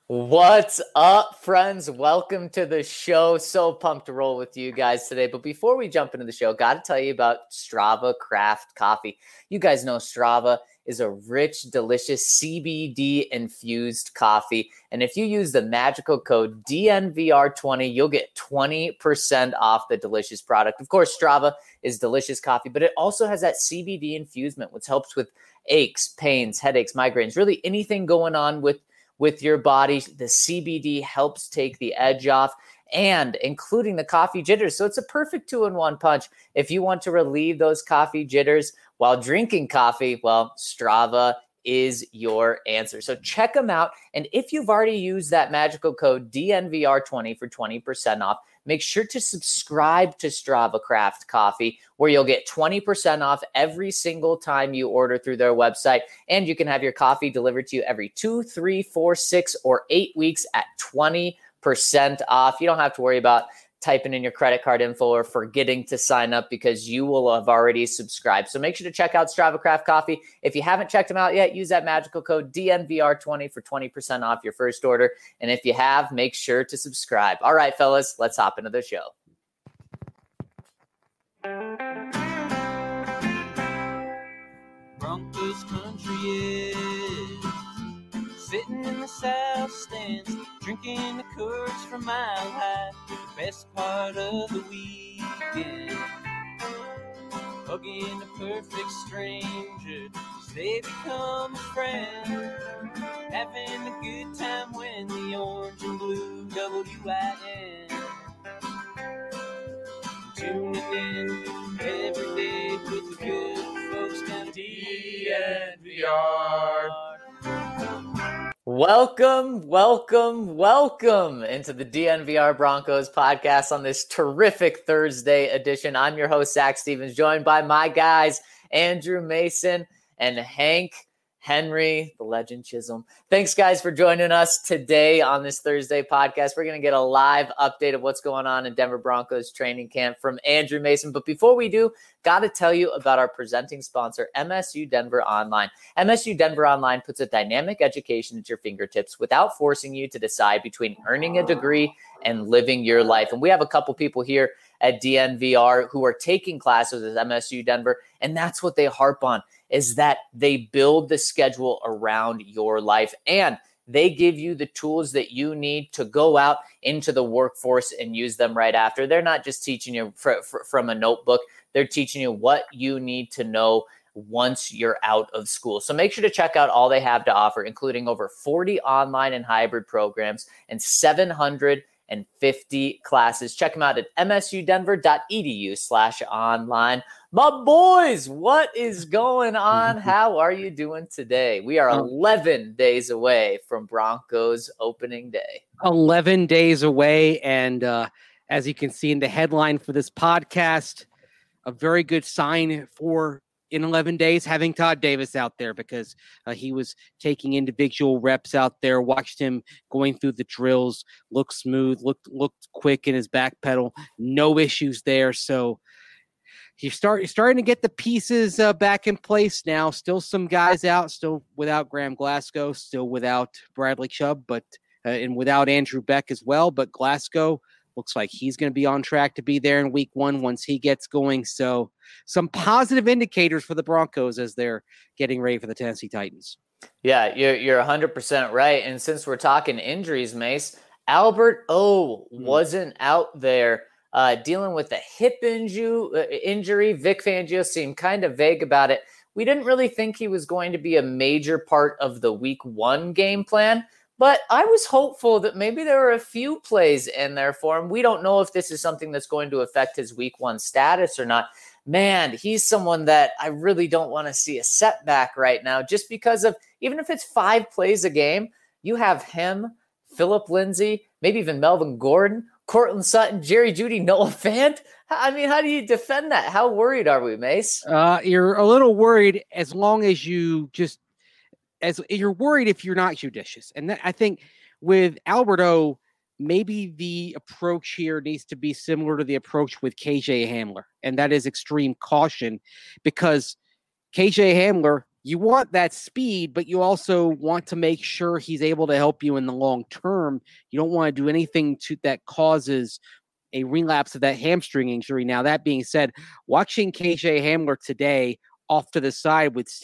What's up, friends? Welcome to the show. So pumped to roll with you guys today. But before we jump into the show, got to tell you about Strava Craft Coffee. You guys know Strava is a rich, delicious CBD infused coffee. And if you use the magical code DNVR20, you'll get 20% off the delicious product. Of course, Strava is delicious coffee, but it also has that CBD infusement, which helps with aches, pains, headaches, migraines, really anything going on with your body. The CBD helps take the edge off, and including the coffee jitters. So it's a perfect 2-in-1 punch. If you want to relieve those coffee jitters while drinking coffee, well, Strava is your answer. So check them out. And if you've already used that magical code DNVR20 for 20% off, make sure to subscribe to Strava Craft Coffee, where you'll get 20% off every single time you order through their website. And you can have your coffee delivered to you every 2, 3, 4, 6, or 8 weeks at 20% off. You don't have to worry about typing in your credit card info or forgetting to sign up, because you will have already subscribed. So make sure to check out Strava Craft Coffee. If you haven't checked them out yet, use that magical code DNVR20 for 20% off your first order. And if you have, make sure to subscribe. All right, fellas, let's hop into the show. Broncos country is sitting in the south stands, drinking the Coors from Mile High, the best part of the weekend. Hugging a perfect stranger, they become a friend. Having a good time when the orange and blue WIN. Tuning in every day with the good folks down at DNVR. Welcome into the DNVR Broncos podcast on this terrific Thursday edition. I'm your host, Zach Stevens, joined by my guys, Andrew Mason and Hank Henry, the legend Chisholm. Thanks, guys, for joining us today on this Thursday podcast. We're going to get a live update of what's going on in Denver Broncos training camp from Andrew Mason. But before we do, got to tell you about our presenting sponsor, MSU Denver Online. MSU Denver Online puts a dynamic education at your fingertips without forcing you to decide between earning a degree and living your life. And we have a couple people here at DNVR who are taking classes at MSU Denver, and that's what they harp on, is that they build the schedule around your life, and they give you the tools that you need to go out into the workforce and use them right after. They're not just teaching you from a notebook. They're teaching you what you need to know once you're out of school. So make sure to check out all they have to offer, including over 40 online and hybrid programs and 750 classes. Check them out at msudenver.edu/online. My boys, what is going on? How are you doing today? We are 11 days away from Broncos opening day. 11 days away. And as you can see in the headline for this podcast, a very good sign for in 11 days having Todd Davis out there, because he was taking individual reps out there, watched him going through the drills, looked smooth, looked quick in his back pedal, no issues there. So you're starting to get the pieces back in place now. Still some guys out, still without Graham Glasgow, still without Bradley Chubb, but and without Andrew Beck as well. But Glasgow looks like he's going to be on track to be there in week 1 once he gets going. So some positive indicators for the Broncos as they're getting ready for the Tennessee Titans. Yeah, you're 100% right. And since we're talking injuries, Mace, Albert O wasn't out there dealing with a hip injury. Vic Fangio seemed kind of vague about it. We didn't really think he was going to be a major part of the week 1 game plan, but I was hopeful that maybe there were a few plays in there for him. We don't know if this is something that's going to affect his week 1 status or not. Man, he's someone that I really don't want to see a setback right now, just because of, even if it's 5 plays a game, you have him, Phillip Lindsay, maybe even Melvin Gordon, Courtland Sutton, Jerry Jeudy, Noah Fant. I mean, how do you defend that? How worried are we, Mace? You're a little worried as long as you as you're worried if you're not judicious. And I think with Albert O, maybe the approach here needs to be similar to the approach with KJ Hamler. And that is extreme caution, because KJ Hamler you want that speed, but you also want to make sure he's able to help you in the long term. You don't want to do anything that causes a relapse of that hamstring injury. Now, that being said, watching KJ Hamler today off to the side with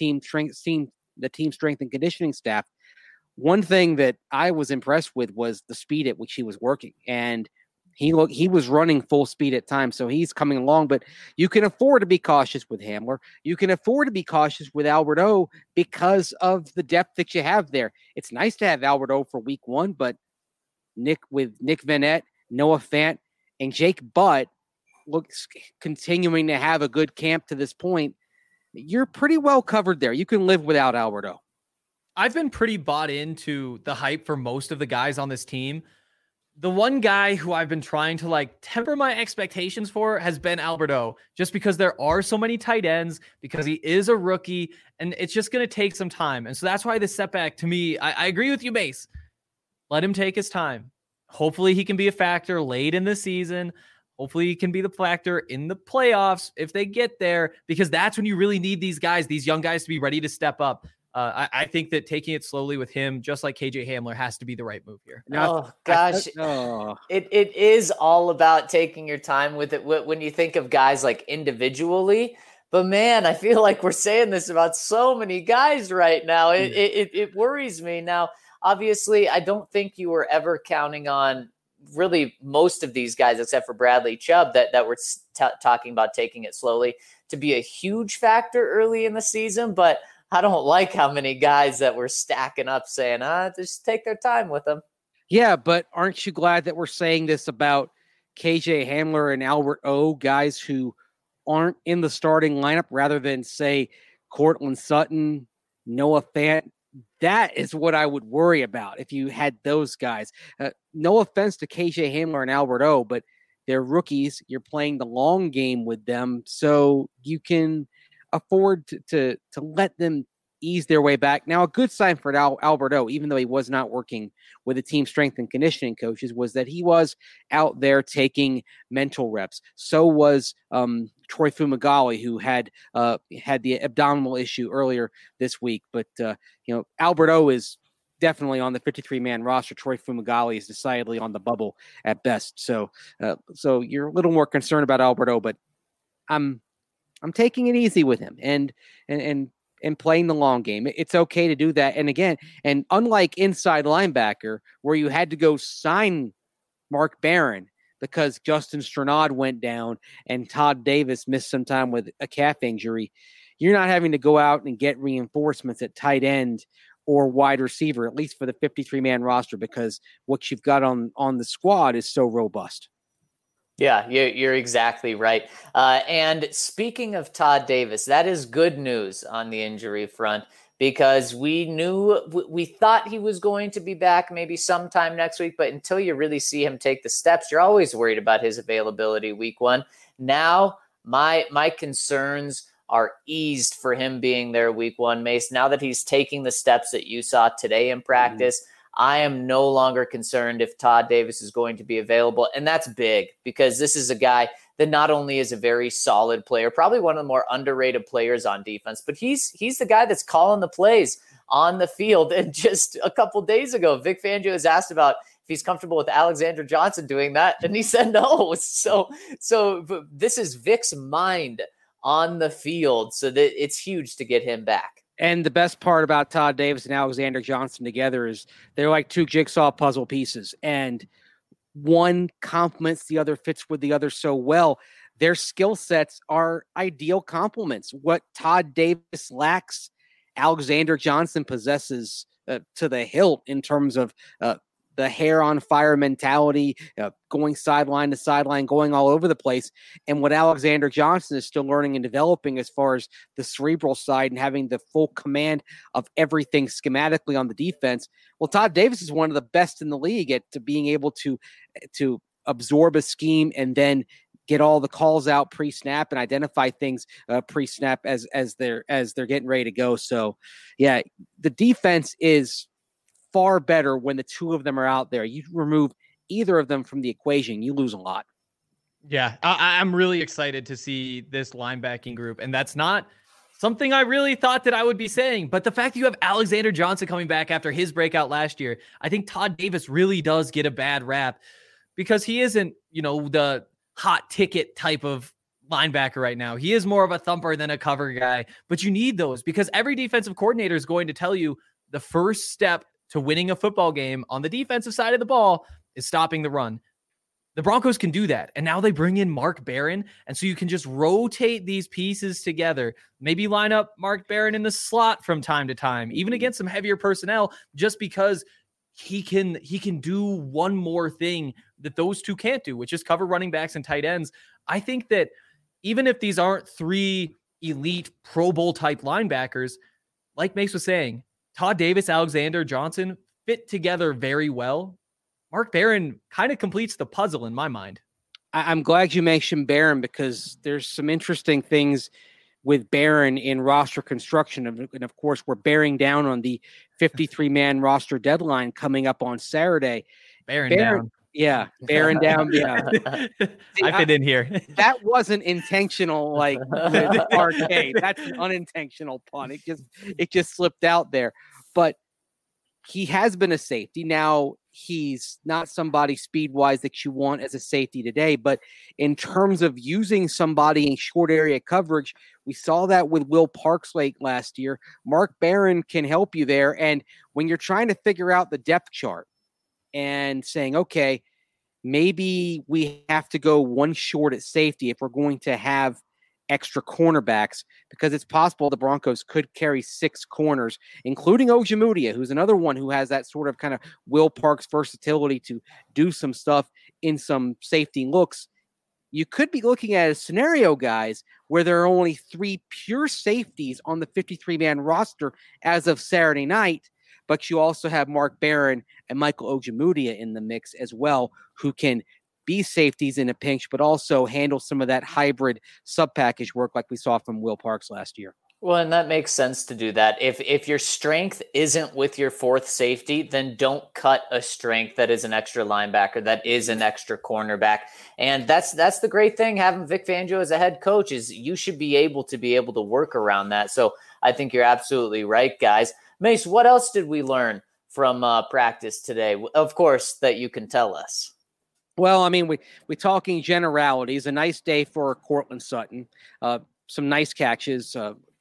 the team strength and conditioning staff, one thing that I was impressed with was the speed at which he was working. And he was running full speed at times, so he's coming along. But you can afford to be cautious with Hamler. You can afford to be cautious with Albert O because of the depth that you have there. It's nice to have Albert O for week 1, but Nick Vannett, Noah Fant, and Jake Butt looks continuing to have a good camp to this point. You're pretty well covered there. You can live without Albert O. I've been pretty bought into the hype for most of the guys on this team. The one guy who I've been trying to temper my expectations for has been Albert O, just because there are so many tight ends, because he is a rookie, and it's just going to take some time. And so that's why this setback, to me, I agree with you, Mace. Let him take his time. Hopefully he can be a factor late in the season. Hopefully he can be the factor in the playoffs if they get there, because that's when you really need these guys, these young guys, to be ready to step up. I think that taking it slowly with him, just like KJ Hamler, has to be the right move here. Oh, gosh. It is all about taking your time with it when you think of guys like individually. But, man, I feel like we're saying this about so many guys right now. It worries me. Now, obviously, I don't think you were ever counting on really most of these guys, except for Bradley Chubb, that we're talking about taking it slowly, to be a huge factor early in the season. But I don't like how many guys that were stacking up saying, just take their time with them. Yeah, but aren't you glad that we're saying this about KJ Hamler and Albert O, guys who aren't in the starting lineup, rather than, say, Courtland Sutton, Noah Fant? That is what I would worry about if you had those guys. No offense to KJ Hamler and Albert O, but they're rookies. You're playing the long game with them, so you can afford to let them ease their way back. Now, a good sign for Albert O, even though he was not working with the team strength and conditioning coaches, was that he was out there taking mental reps. So was Troy Fumagalli, who had the abdominal issue earlier this week. But Albert O is definitely on the 53-man roster. Troy Fumagalli is decidedly on the bubble at best. So you're a little more concerned about Albert O, but I'm taking it easy with him and playing the long game. It's okay to do that. And again, and unlike inside linebacker, where you had to go sign Mark Barron because Justin Strnad went down and Todd Davis missed some time with a calf injury, you're not having to go out and get reinforcements at tight end or wide receiver, at least for the 53-man roster, because what you've got on the squad is so robust. Yeah, you're exactly right. And speaking of Todd Davis, that is good news on the injury front, because we thought he was going to be back maybe sometime next week, but until you really see him take the steps, you're always worried about his availability week 1. Now, my concerns are eased for him being there week 1, Mace. Now that he's taking the steps that you saw today in practice, I am no longer concerned if Todd Davis is going to be available. And that's big, because this is a guy that not only is a very solid player, probably one of the more underrated players on defense, but he's the guy that's calling the plays on the field. And just a couple days ago, Vic Fangio was asked about if he's comfortable with Alexander Johnson doing that, and he said no. So this is Vic's mind on the field, so that it's huge to get him back. And the best part about Todd Davis and Alexander Johnson together is they're like two jigsaw puzzle pieces, and one complements the other, fits with the other so well. Their skill sets are ideal complements. What Todd Davis lacks, Alexander Johnson possesses to the hilt in terms of the hair on fire mentality, going sideline to sideline, going all over the place. And what Alexander Johnson is still learning and developing as far as the cerebral side and having the full command of everything schematically on the defense. Well, Todd Davis is one of the best in the league at being able to absorb a scheme and then get all the calls out pre-snap and identify things pre-snap as they're getting ready to go. So yeah, the defense is far better when the two of them are out there. You remove either of them from the equation, you lose a lot. Yeah, I'm really excited to see this linebacking group. And that's not Something I really thought that I would be saying, but the fact that you have Alexander Johnson coming back after his breakout last year, I think Todd Davis really does get a bad rap because he isn't, the hot ticket type of linebacker right now. He is more of a thumper than a cover guy, but you need those because every defensive coordinator is going to tell you the first step to winning a football game on the defensive side of the ball is stopping the run. The Broncos can do that. And now they bring in Mark Barron. And so you can just rotate these pieces together. Maybe line up Mark Barron in the slot from time to time, even against some heavier personnel, just because he can do one more thing that those two can't do, which is cover running backs and tight ends. I think that even if these aren't three elite Pro Bowl type linebackers, like Mace was saying, Todd Davis, Alexander Johnson fit together very well. Mark Barron kind of completes the puzzle in my mind. I'm glad you mentioned Barron because there's some interesting things with Barron in roster construction. And of course, we're bearing down on the 53-man roster deadline coming up on Saturday. Barron down. Yeah, Barron down. Yeah. I fit in here. That wasn't intentional, like the arcade. That's an unintentional pun. It just slipped out there. But he has been a safety. Now, he's not somebody speed-wise that you want as a safety today, but in terms of using somebody in short area coverage, we saw that with Will Parks late last year. Mark Barron can help you there. And when you're trying to figure out the depth chart and saying, okay, maybe we have to go one short at safety if we're going to have extra cornerbacks, because it's possible the Broncos could carry 6 corners, including Ojemudia, who's another one who has that sort of kind of Will Parks versatility to do some stuff in some safety looks. You could be looking at a scenario, guys, where there are only 3 pure safeties on the 53-man roster as of Saturday night, but you also have Mark Barron and Michael Ojemudia in the mix as well, who can be safeties in a pinch, but also handle some of that hybrid sub-package work like we saw from Will Parks last year. Well, and that makes sense to do that. If your strength isn't with your 4th safety, then don't cut a strength that is an extra linebacker, that is an extra cornerback. And that's the great thing having Vic Fangio as a head coach is you should be able to work around that. So I think you're absolutely right, guys. Mace, what else did we learn from practice today? Of course, that you can tell us. Well, I mean, we're talking generalities. A nice day for Courtland Sutton. Some nice catches.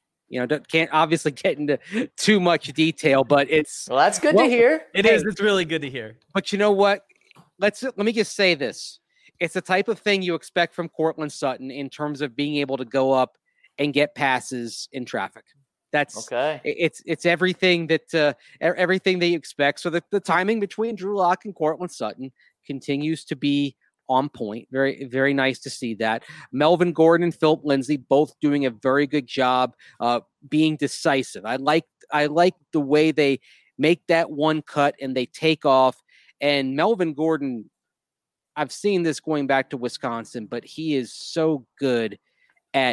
Can't obviously get into too much detail, but that's good to hear. It is. It's really good to hear. But you know what? Let me just say this. It's the type of thing you expect from Courtland Sutton in terms of being able to go up and get passes in traffic. That's okay. It's everything that you expect. So the timing between Drew Lock and Courtland Sutton continues to be on point. Very, very nice to see that. Melvin Gordon and Philip Lindsay both doing a very good job being decisive. I like the way they make that one cut and they take off. And Melvin Gordon, I've seen this going back to Wisconsin, but he is so good at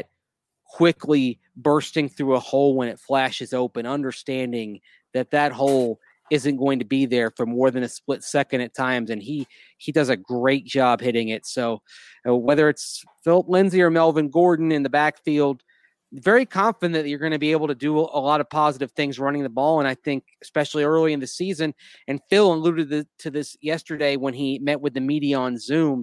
quickly bursting through a hole when it flashes open, understanding that hole isn't going to be there for more than a split second at times, and he does a great job hitting it. So whether it's Philip Lindsay or Melvin Gordon in the backfield, very confident that you're going to be able to do a lot of positive things running the ball, and I think especially early in the season, and Phil alluded to this yesterday when he met with the media on Zoom,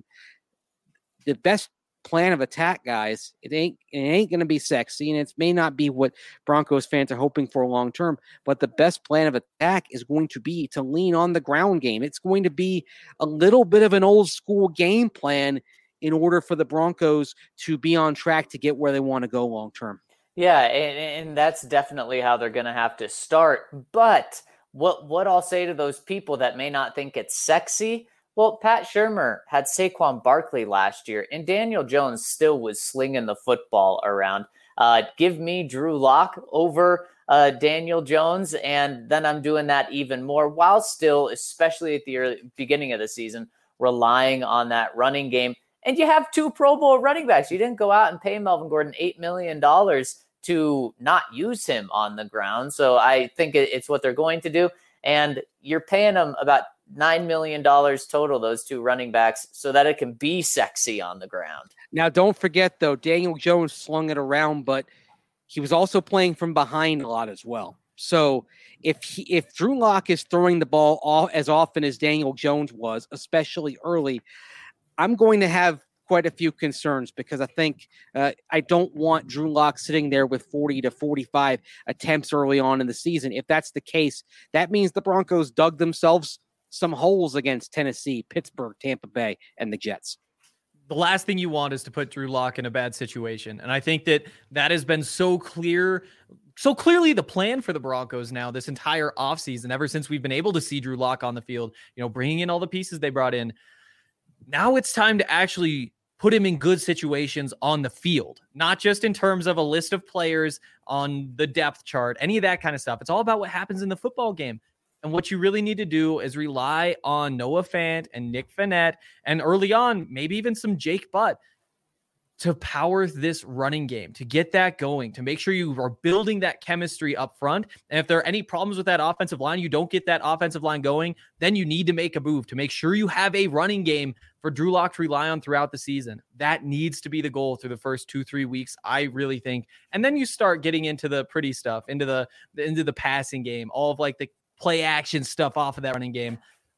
the best plan of attack, guys, it ain't going to be sexy, and it may not be what Broncos fans are hoping for long term, but the best plan of attack is going to be to lean on the ground game. It's going to be a little bit of an old school game plan in order for the Broncos to be on track to get where they want to go long term. Yeah, and that's definitely how they're going to have to start. But what I'll say to those people that may not think it's sexy, well, Pat Shurmur had Saquon Barkley last year, and Daniel Jones still was slinging the football around. Give me Drew Lock over Daniel Jones, and then I'm doing that even more while still, especially at the beginning of the season, relying on that running game. And you have 2 Pro Bowl running backs. You didn't go out and pay Melvin Gordon $8 million to not use him on the ground. So I think it's what they're going to do. And you're paying them about $9 million total, those 2 running backs, so that it can be sexy on the ground. Now, don't forget, though, Daniel Jones slung it around, but he was also playing from behind a lot as well. So if Drew Lock is throwing the ball as often as Daniel Jones was, especially early, I'm going to have quite a few concerns because I think I don't want Drew Lock sitting there with 40 to 45 attempts early on in the season. If that's the case, that means the Broncos dug themselves some holes against Tennessee, Pittsburgh, Tampa Bay, and the Jets. The last thing you want is to put Drew Lock in a bad situation. And I think that has been so clearly the plan for the Broncos now this entire offseason, ever since we've been able to see Drew Lock on the field, bringing in all the pieces they brought in. Now it's time to actually put him in good situations on the field, not just in terms of a list of players on the depth chart, any of that kind of stuff. It's all about what happens in the football game. And what you really need to do is rely on Noah Fant and Nick Vannett, and early on, maybe even some Jake Butt, to power this running game, to get that going, to make sure you are building that chemistry up front. And if there are any problems with that offensive line, you don't get that offensive line going, then you need to make a move to make sure you have a running game for Drew Lock to rely on throughout the season. That needs to be the goal through the first 2-3 weeks, I really think. And then you start getting into the pretty stuff, into the passing game, all of like the play action stuff off of that running game.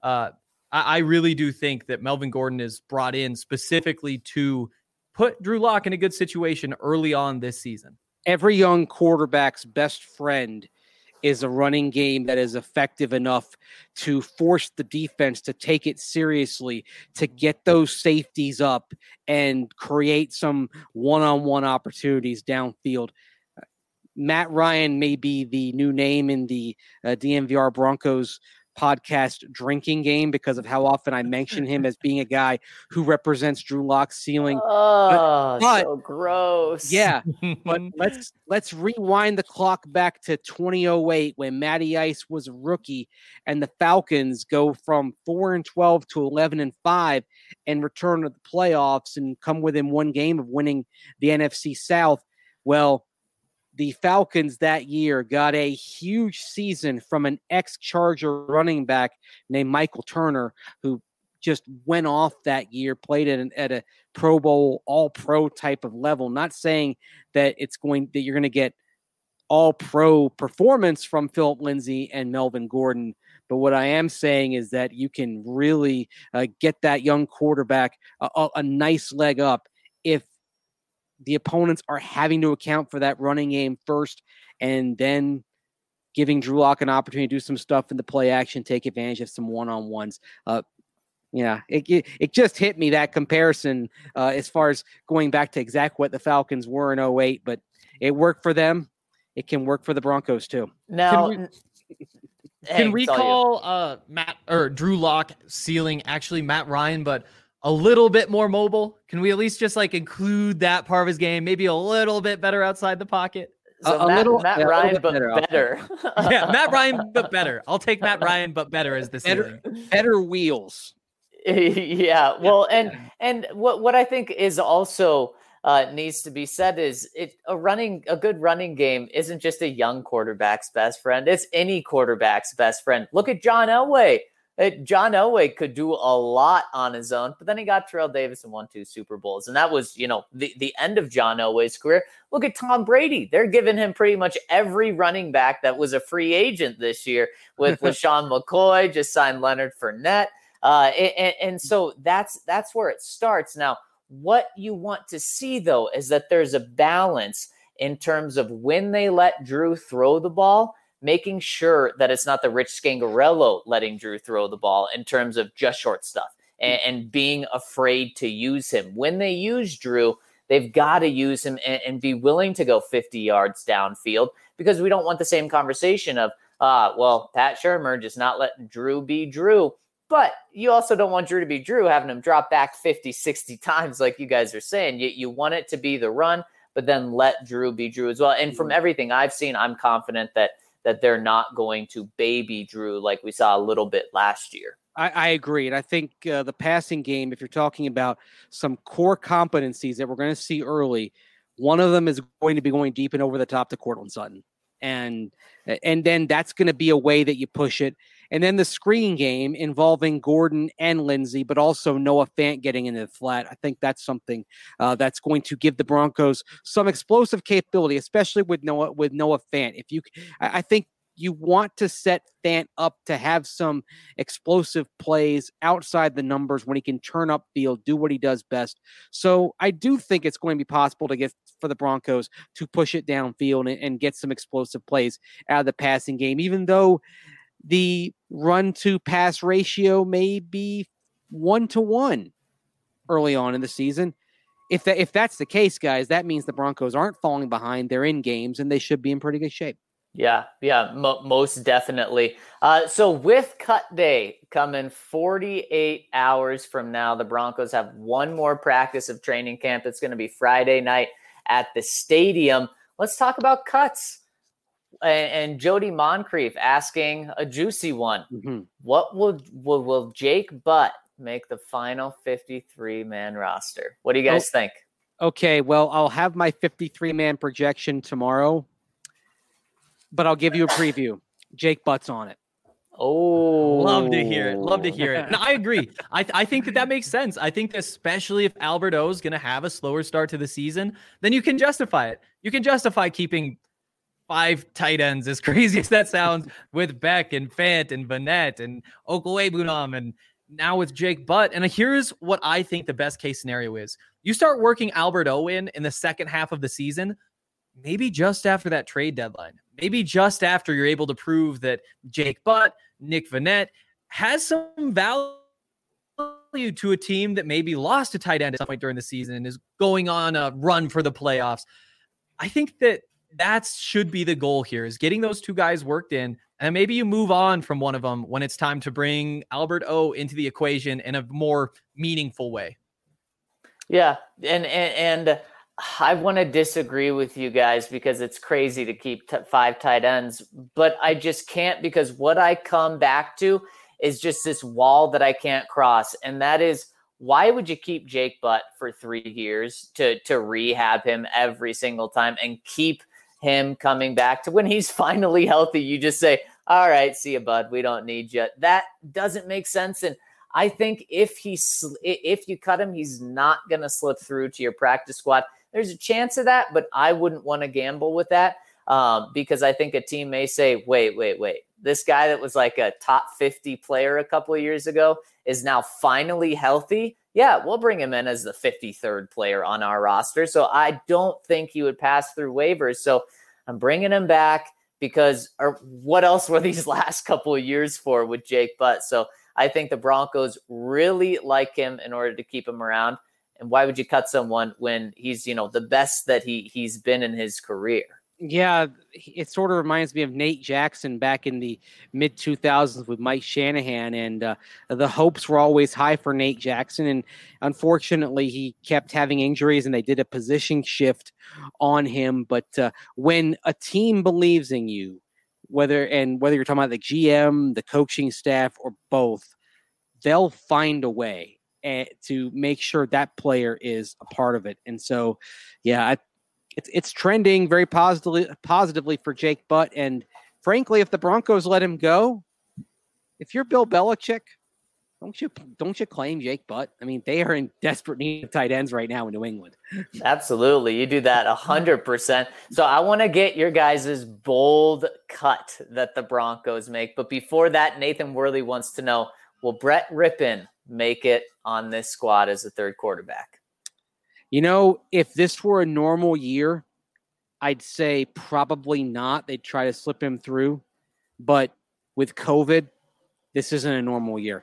I really do think that Melvin Gordon is brought in specifically to put Drew Lock in a good situation early on this season. Every young quarterback's best friend is a running game that is effective enough to force the defense to take it seriously, to get those safeties up and create some one-on-one opportunities downfield. Matt Ryan may be the new name in the DNVR Broncos podcast drinking game because of how often I mention him as being a guy who represents Drew Lock's ceiling. Oh, but so gross. Yeah, but let's rewind the clock back to 2008 when Matty Ice was a rookie and the Falcons go from 4-12 to 11-5 and return to the playoffs and come within one game of winning the NFC South. Well, the Falcons that year got a huge season from an ex-Charger running back named Michael Turner, who just went off that year, played at a Pro Bowl, all-pro type of level. Not saying that you're going to get all-pro performance from Philip Lindsay and Melvin Gordon, but what I am saying is that you can really get that young quarterback a nice leg up if the opponents are having to account for that running game first and then giving Drew Lock an opportunity to do some stuff in the play action, take advantage of some one-on-ones. It just hit me, that comparison, as far as going back to exactly what the Falcons were in 2008, but it worked for them. It can work for the Broncos too. Now, can we call Matt or Drew Lock ceiling actually Matt Ryan, but a little bit more mobile? Can we at least just include that part of his game? Maybe a little bit better outside the pocket. So Matt Ryan, but better. Yeah, Matt Ryan, but better. I'll take Matt Ryan, but better as the ceiling. Better wheels. Yeah. Well, and what I think is also needs to be said is a good running game isn't just a young quarterback's best friend. It's any quarterback's best friend. Look at John Elway. John Elway could do a lot on his own, but then he got Terrell Davis and won 2 Super Bowls. And that was, the end of John Elway's career. Look at Tom Brady. They're giving him pretty much every running back that was a free agent this year with LaShawn McCoy, just signed Leonard Fournette. And so that's where it starts. Now, what you want to see, though, is that there's a balance in terms of when they let Drew throw the ball, making sure that it's not the Rich Scangarello letting Drew throw the ball in terms of just short stuff and being afraid to use him. When they use Drew, they've got to use him and be willing to go 50 yards downfield, because we don't want the same conversation of, Pat Shurmur just not letting Drew be Drew. But you also don't want Drew to be Drew, having him drop back 50, 60 times like you guys are saying. You want it to be the run, but then let Drew be Drew as well. And from everything I've seen, I'm confident that they're not going to baby Drew like we saw a little bit last year. I agree. And I think the passing game, if you're talking about some core competencies that we're going to see early, one of them is going to be going deep and over the top to Courtland Sutton. And then that's going to be a way that you push it. And then the screen game involving Gordon and Lindsey, but also Noah Fant getting into the flat. I think that's something that's going to give the Broncos some explosive capability, especially with Noah Fant. I think you want to set Fant up to have some explosive plays outside the numbers when he can turn up field, do what he does best. So I do think it's going to be possible to get for the Broncos to push it downfield and get some explosive plays out of the passing game, even though the run to pass ratio may be 1-to-1 early on in the season. If that's the case, guys, that means the Broncos aren't falling behind. They're in games and they should be in pretty good shape. Yeah, most definitely. So with cut day coming 48 hours from now, the Broncos have one more practice of training camp. It's going to be Friday night at the stadium. Let's talk about cuts. And Jody Moncrief asking a juicy one. Mm-hmm. What will Jake Butt make the final 53-man roster? What do you guys think? Okay, well, I'll have my 53-man projection tomorrow, but I'll give you a preview. Jake Butt's on it. Oh, love to hear it. No, I agree. I think that makes sense. I think especially if Albert O is going to have a slower start to the season, then you can justify it. You can justify keeping 5 tight ends, as crazy as that sounds, with Beck and Fant and Vanette and Okwuegbunam, and now with Jake Butt. And here's what I think the best case scenario is. You start working Albert O in the second half of the season, maybe just after that trade deadline. Maybe just after you're able to prove that Jake Butt, Nick Vanette has some value to a team that maybe lost a tight end at some point during the season and is going on a run for the playoffs. I think that should be the goal here, is getting those 2 guys worked in, and maybe you move on from one of them when it's time to bring Albert O into the equation in a more meaningful way. Yeah, and I want to disagree with you guys because it's crazy to keep 5 tight ends, but I just can't, because what I come back to is just this wall that I can't cross, and that is, why would you keep Jake Butt for 3 years to rehab him every single time and keep him coming back to when he's finally healthy? You just say, all right, see you, bud. We don't need you. That doesn't make sense. And I think if you cut him, he's not going to slip through to your practice squad. There's a chance of that, but I wouldn't want to gamble with that because I think a team may say, wait. This guy that was like a top 50 player a couple of years ago is now finally healthy. Yeah, we'll bring him in as the 53rd player on our roster. So I don't think he would pass through waivers. So I'm bringing him back because, or what else were these last couple of years for with Jake Butt? So I think the Broncos really like him in order to keep him around. And why would you cut someone when he's, the best that he's been in his career? Yeah, it sort of reminds me of Nate Jackson back in the mid-2000s with Mike Shanahan, and the hopes were always high for Nate Jackson, and unfortunately he kept having injuries, and they did a position shift on him. But when a team believes in you, whether you're talking about the GM, the coaching staff, or both, they'll find a way to make sure that player is a part of it. And so, yeah, It's trending very positively for Jake Butt. And frankly, if the Broncos let him go, if you're Bill Belichick, don't you claim Jake Butt? I mean, they are in desperate need of tight ends right now in New England. Absolutely. You do that 100%. So I want to get your guys' bold cut that the Broncos make. But before that, Nathan Worley wants to know, will Brett Rypien make it on this squad as a 3rd quarterback? If this were a normal year, I'd say probably not. They'd try to slip him through. But with COVID, this isn't a normal year.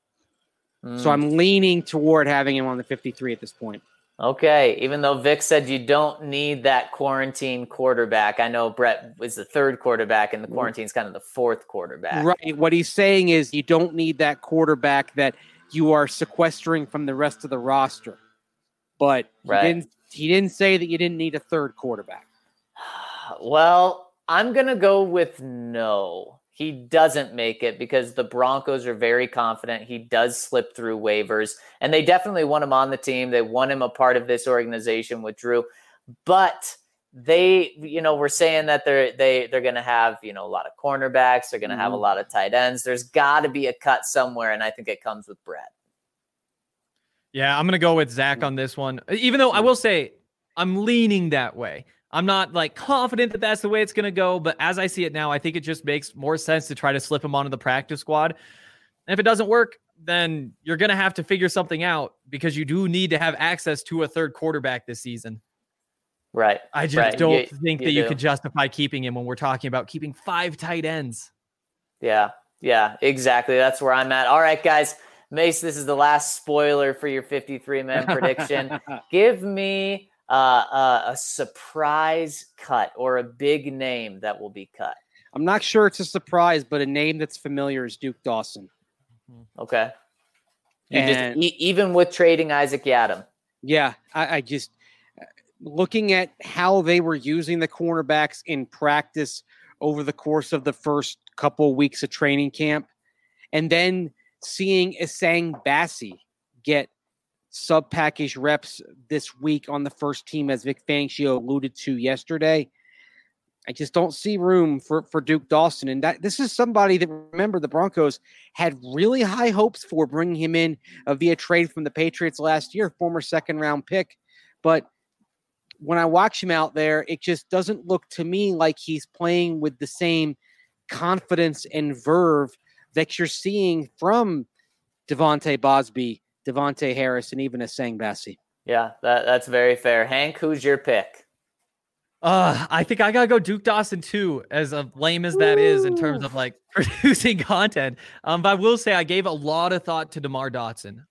So I'm leaning toward having him on the 53 at this point. Okay. Even though Vic said you don't need that quarantine quarterback. I know Brett was the 3rd quarterback and the quarantine's kind of the 4th quarterback. Right. What he's saying is you don't need that quarterback that you are sequestering from the rest of the roster. But he didn't say that you didn't need a 3rd quarterback. Well, I'm going to go with no. He doesn't make it because the Broncos are very confident he does slip through waivers. And they definitely want him on the team. They want him a part of this organization with Drew. But we're saying that they're going to have, a lot of cornerbacks. They're going to have a lot of tight ends. There's got to be a cut somewhere, and I think it comes with Brett. Yeah, I'm going to go with Zach on this one, even though I will say I'm leaning that way. I'm not like confident that that's the way it's going to go, but as I see it now, I think it just makes more sense to try to slip him onto the practice squad. And if it doesn't work, then you're going to have to figure something out because you do need to have access to a third quarterback this season. Right. I just don't think that you could justify keeping him when we're talking about keeping 5 tight ends. Yeah, exactly. That's where I'm at. All right, guys. Mace, this is the last spoiler for your 53-man prediction. Give me a surprise cut or a big name that will be cut. I'm not sure it's a surprise, but a name that's familiar is Duke Dawson. Okay. Even with trading Isaac Yiadom. Yeah, I just looking at how they were using the cornerbacks in practice over the course of the first couple of weeks of training camp, and then seeing Essang Bassey get sub-package reps this week on the first team, as Vic Fangio alluded to yesterday. I just don't see room for Duke Dawson. And that this is somebody that, remember, the Broncos had really high hopes for bringing him in via trade from the Patriots last year, former second-round pick. But when I watch him out there, it just doesn't look to me like he's playing with the same confidence and verve that you're seeing from Devontae Bosby, Devontae Harris, and even Essang Bassey. Yeah, that's very fair. Hank, who's your pick? I think I gotta go Duke Dawson too, as lame as that is in terms of like producing content. But I will say I gave a lot of thought to DeMar Dotson.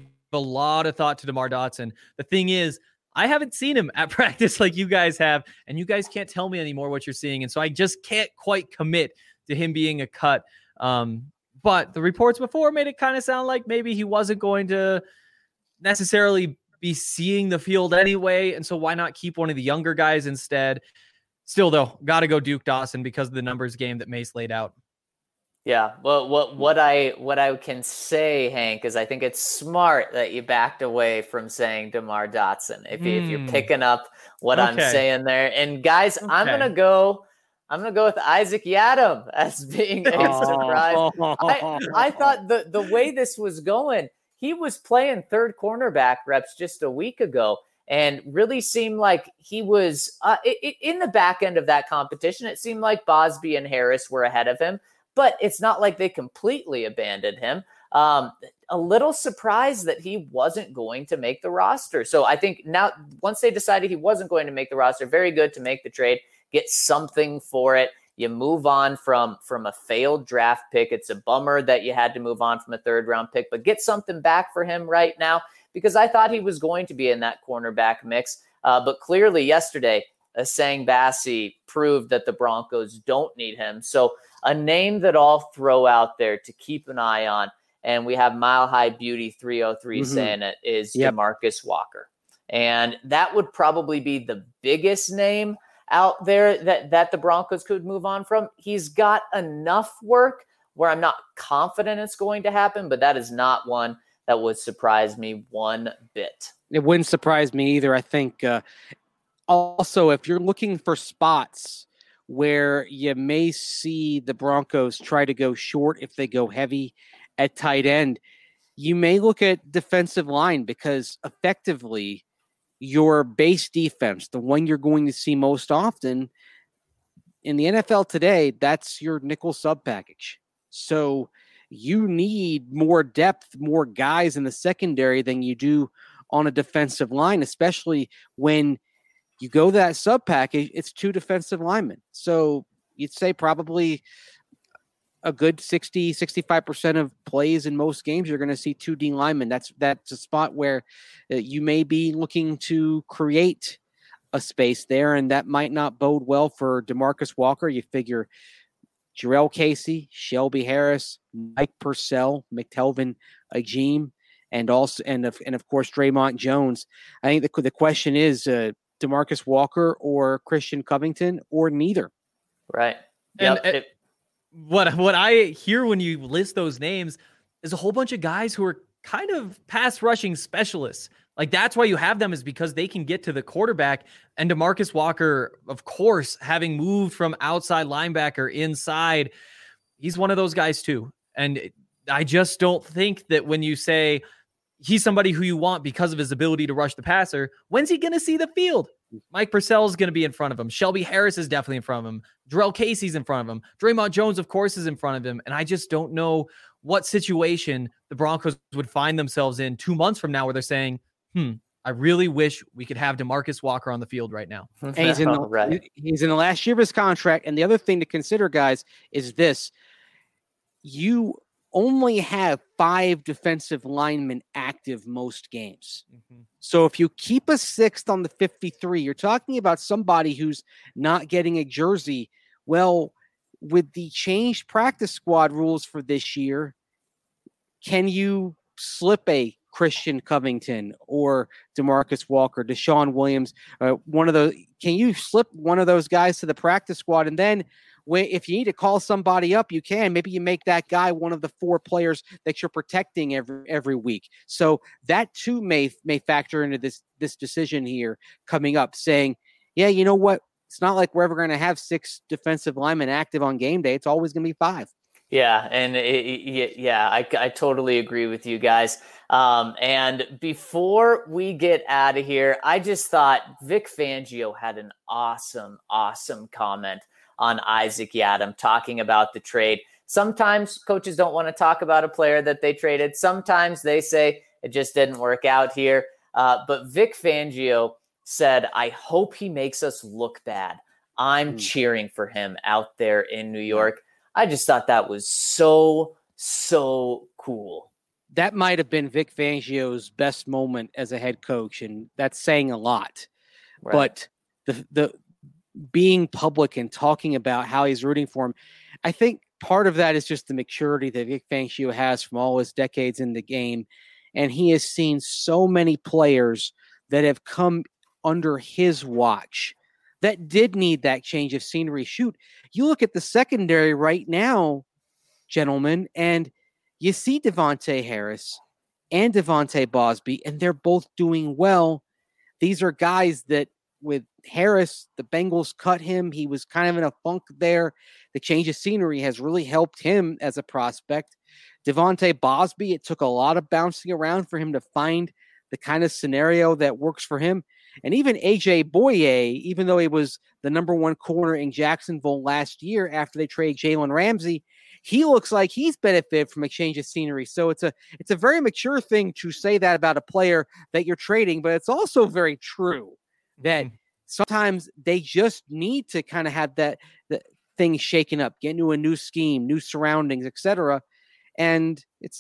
The thing is, I haven't seen him at practice like you guys have, and you guys can't tell me anymore what you're seeing. And so I just can't quite commit to him being a cut. But the reports before made it kind of sound like maybe he wasn't going to necessarily be seeing the field anyway. And so why not keep one of the younger guys instead? Still, though, got to go Duke Dawson because of the numbers game that Mace laid out. Yeah. Well, what I can say, Hank, is I think it's smart that you backed away from saying DeMar Dotson. If you're picking up what I'm saying there. And guys, I'm going to go with Isaac Yiadom as being a surprise. I thought the way this was going, he was playing third cornerback reps just a week ago and really seemed like he was in the back end of that competition. It seemed like Bosby and Harris were ahead of him, but it's not like they completely abandoned him. A little surprised that he wasn't going to make the roster. So I think now, once they decided he wasn't going to make the roster, very good to make the trade, get something for it. You move on from a failed draft pick. It's a bummer that you had to move on from a third-round pick, but get something back for him right now because I thought he was going to be in that cornerback mix. But clearly yesterday, Essang Bassey proved that the Broncos don't need him. So a name that I'll throw out there to keep an eye on, and we have Mile High Beauty 303 saying it, is DeMarcus Walker. And that would probably be the biggest name out there that the Broncos could move on from. He's got enough work where I'm not confident it's going to happen, but that is not one that would surprise me one bit. It wouldn't surprise me either. I think also, if you're looking for spots where you may see the Broncos try to go short if they go heavy at tight end, you may look at defensive line because effectively your base defense, the one you're going to see most often in the NFL today, that's your nickel sub package. So you need more depth, more guys in the secondary than you do on a defensive line, especially when you go that sub package, it's 2 defensive linemen. So you'd say probably a good 65% of plays in most games, you're going to see 2 D linemen. That's a spot where you may be looking to create a space there, and that might not bode well for DeMarcus Walker. You figure Jarrell Casey, Shelby Harris, Mike Purcell, McTelvin Agim, and of course Draymond Jones. I think the question is DeMarcus Walker or Christian Covington or neither. Right. And what I hear when you list those names is a whole bunch of guys who are kind of pass rushing specialists. Like, that's why you have them, is because they can get to the quarterback. And DeMarcus Walker, of course, having moved from outside linebacker inside, he's one of those guys too. And I just don't think that when you say he's somebody who you want because of his ability to rush the passer, when's he going to see the field? Mike Purcell is going to be in front of him. Shelby Harris is definitely in front of him. Jarrell Casey's in front of him. Draymond Jones, of course, is in front of him. And I just don't know what situation the Broncos would find themselves in 2 months from now where they're saying, I really wish we could have DeMarcus Walker on the field right now. And he's in the last year of his contract. And the other thing to consider, guys, is this. You only have 5 defensive linemen active most games. So if you keep a 6th on the 53, you're talking about somebody who's not getting a jersey. Well, with the changed practice squad rules for this year, can you slip a Christian Covington or DeMarcus Walker, Deshaun Williams, can you slip one of those guys to the practice squad? And then if you need to call somebody up, you can. Maybe you make that guy one of the 4 players that you're protecting every week. So that too may factor into this decision here coming up, saying, yeah, you know what? It's not like we're ever going to have 6 defensive linemen active on game day. It's always going to be 5. Yeah, and I totally agree with you guys. And before we get out of here, I just thought Vic Fangio had an awesome comment on Isaac Yiadom talking about the trade. Sometimes coaches don't want to talk about a player that they traded. Sometimes they say it just didn't work out here. But Vic Fangio said, I hope he makes us look bad. I'm cheering for him out there in New York. I just thought that was so cool. That might have been Vic Fangio's best moment as a head coach, and that's saying a lot. Right. But the being public and talking about how he's rooting for him, I think part of that is just the maturity that Vic Fangio has from all his decades in the game. And he has seen so many players that have come under his watch that did need that change of scenery. Shoot, you look at the secondary right now, gentlemen, and you see Devontae Harris and Devontae Bosby, and they're both doing well. These are guys that, with Harris, the Bengals cut him. He was kind of in a funk there. The change of scenery has really helped him as a prospect. Devontae Bosby, it took a lot of bouncing around for him to find the kind of scenario that works for him. And even AJ Boye, even though he was the number 1 corner in Jacksonville last year after they traded Jalen Ramsey, he looks like he's benefited from a change of scenery. So it's a very mature thing to say that about a player that you're trading, but it's also very true that sometimes they just need to kind of have the thing shaken up, get into a new scheme, new surroundings, etc. And it's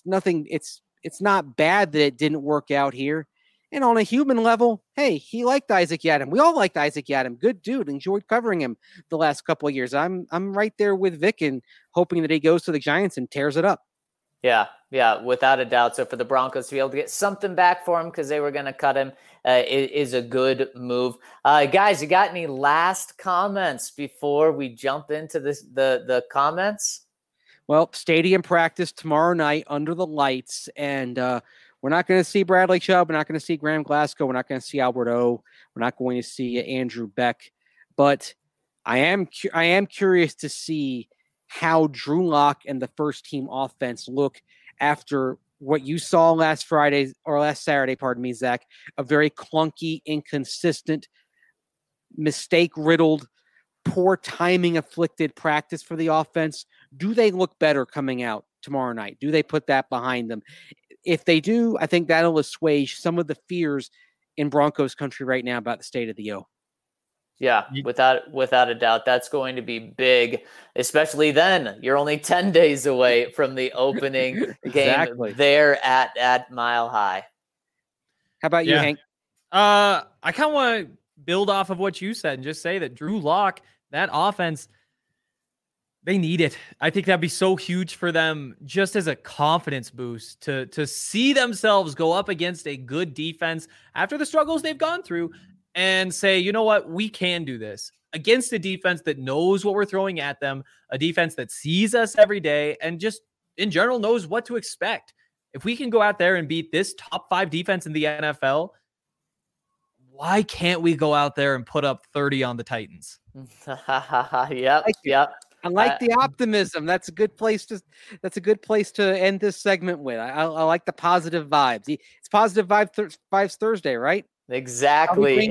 not bad that it didn't work out here. And on a human level, hey, he liked Isaac Yiadom. We all liked Isaac Yiadom. Good dude. Enjoyed covering him the last couple of years. I'm right there with Vic and hoping that he goes to the Giants and tears it up. Yeah, without a doubt. So for the Broncos to be able to get something back for him because they were going to cut him is a good move. Guys, you got any last comments before we jump into the comments? Well, stadium practice tomorrow night under the lights, and we're not going to see Bradley Chubb. We're not going to see Graham Glasgow. We're not going to see Albert O. We're not going to see Andrew Beck. But I am curious to see how Drew Lock and the first team offense look after what you saw last Saturday, Zach, a very clunky, inconsistent, mistake-riddled, poor timing afflicted practice for the offense. Do they look better coming out tomorrow night? Do they put that behind them? If they do, I think that'll assuage some of the fears in Broncos country right now about the state of the O. Yeah, without a doubt, that's going to be big, especially then. You're only 10 days away from the opening game there at Mile High. How about you, Hank? I kind of want to build off of what you said and just say that Drew Lock, that offense, they need it. I think that'd be so huge for them just as a confidence boost to see themselves go up against a good defense after the struggles they've gone through and say, you know what, we can do this against a defense that knows what we're throwing at them, a defense that sees us every day and just in general knows what to expect. If we can go out there and beat this top 5 defense in the NFL, why can't we go out there and put up 30 on the Titans? Yep. I like the optimism. That's a good place to end this segment with. I like the positive vibes. It's positive vibes Thursday, right? Exactly.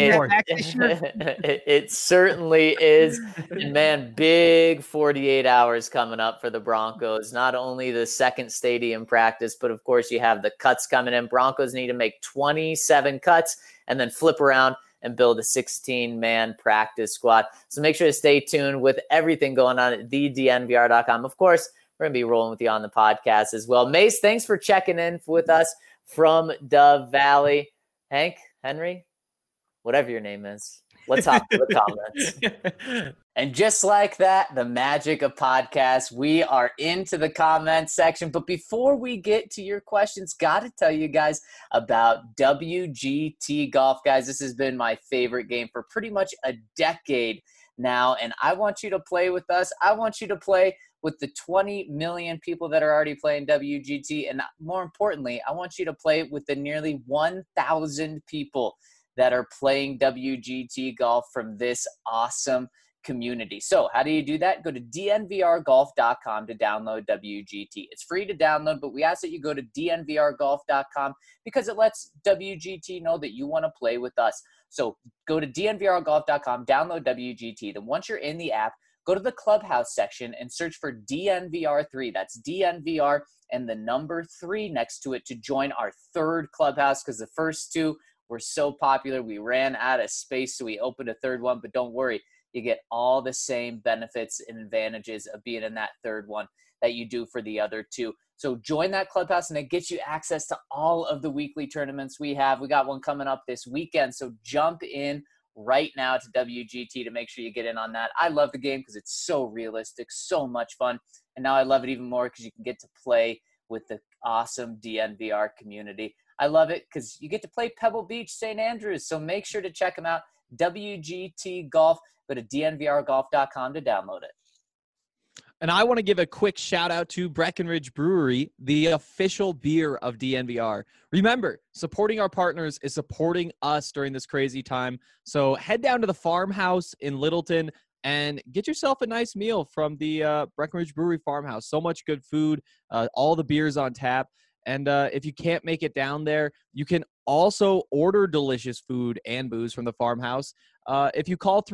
It certainly is. And man, big 48 hours coming up for the Broncos. Not only the second stadium practice, but of course you have the cuts coming in. Broncos need to make 27 cuts and then flip around and build a 16-man practice squad. So make sure to stay tuned with everything going on at thednvr.com. Of course, we're going to be rolling with you on the podcast as well. Mace, thanks for checking in with us from Dove Valley. Hank, Henry, whatever your name is, let's hop to the comments. And just like that, the magic of podcasts, we are into the comments section. But before we get to your questions, got to tell you guys about WGT Golf. Guys, this has been my favorite game for pretty much a decade now, and I want you to play with us. I want you to play with the 20 million people that are already playing WGT, and more importantly, I want you to play with the nearly 1,000 people that are playing WGT Golf from this awesome community. So how do you do that? Go to dnvrgolf.com to download WGT. It's free to download, but we ask that you go to dnvrgolf.com because it lets WGT know that you want to play with us. So go to dnvrgolf.com, download WGT. Then once you're in the app, go to the Clubhouse section and search for DNVR3. That's DNVR and the number 3 next to it to join our third Clubhouse, because the first two were so popular we ran out of space, so we opened a third one. But don't worry, you get all the same benefits and advantages of being in that third one that you do for the other two. So join that Clubhouse, and it gets you access to all of the weekly tournaments we have. We got one coming up this weekend, so jump in right now to WGT to make sure you get in on that. I love the game because it's so realistic, so much fun. And now I love it even more because you can get to play with the awesome DNVR community. I love it because you get to play Pebble Beach, St. Andrews. So make sure to check them out. WGT Golf. Go to dnvrgolf.com to download it. And I want to give a quick shout out to Breckenridge Brewery, the official beer of DNVR. Remember, supporting our partners is supporting us during this crazy time. So head down to the farmhouse in Littleton and get yourself a nice meal from the Breckenridge Brewery farmhouse. So much good food, all the beers on tap. And if you can't make it down there, you can also order delicious food and booze from the farmhouse. If you call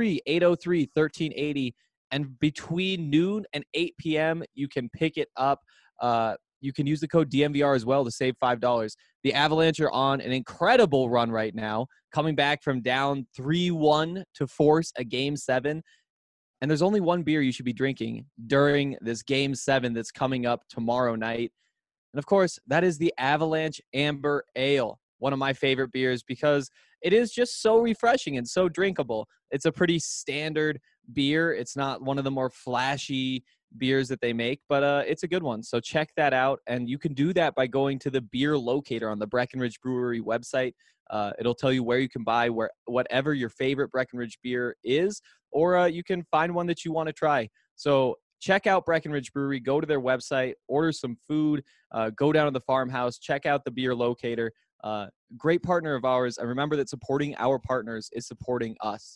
303-803-1380, and between noon and 8 p.m., you can pick it up. You can use the code DNVR as well to save $5. The Avalanche are on an incredible run right now, coming back from down 3-1 to force a Game 7. And there's only one beer you should be drinking during this Game 7 that's coming up tomorrow night. And, of course, that is the Avalanche Amber Ale, one of my favorite beers because it is just so refreshing and so drinkable. It's a pretty standard beer. It's not one of the more flashy beers that they make, but it's a good one. So check that out. And you can do that by going to the beer locator on the Breckenridge Brewery website. It'll tell you where you can buy whatever your favorite Breckenridge beer is, or you can find one that you want to try. So check out Breckenridge Brewery, go to their website, order some food, go down to the farmhouse, check out the beer locator. Great partner of ours. And remember that supporting our partners is supporting us.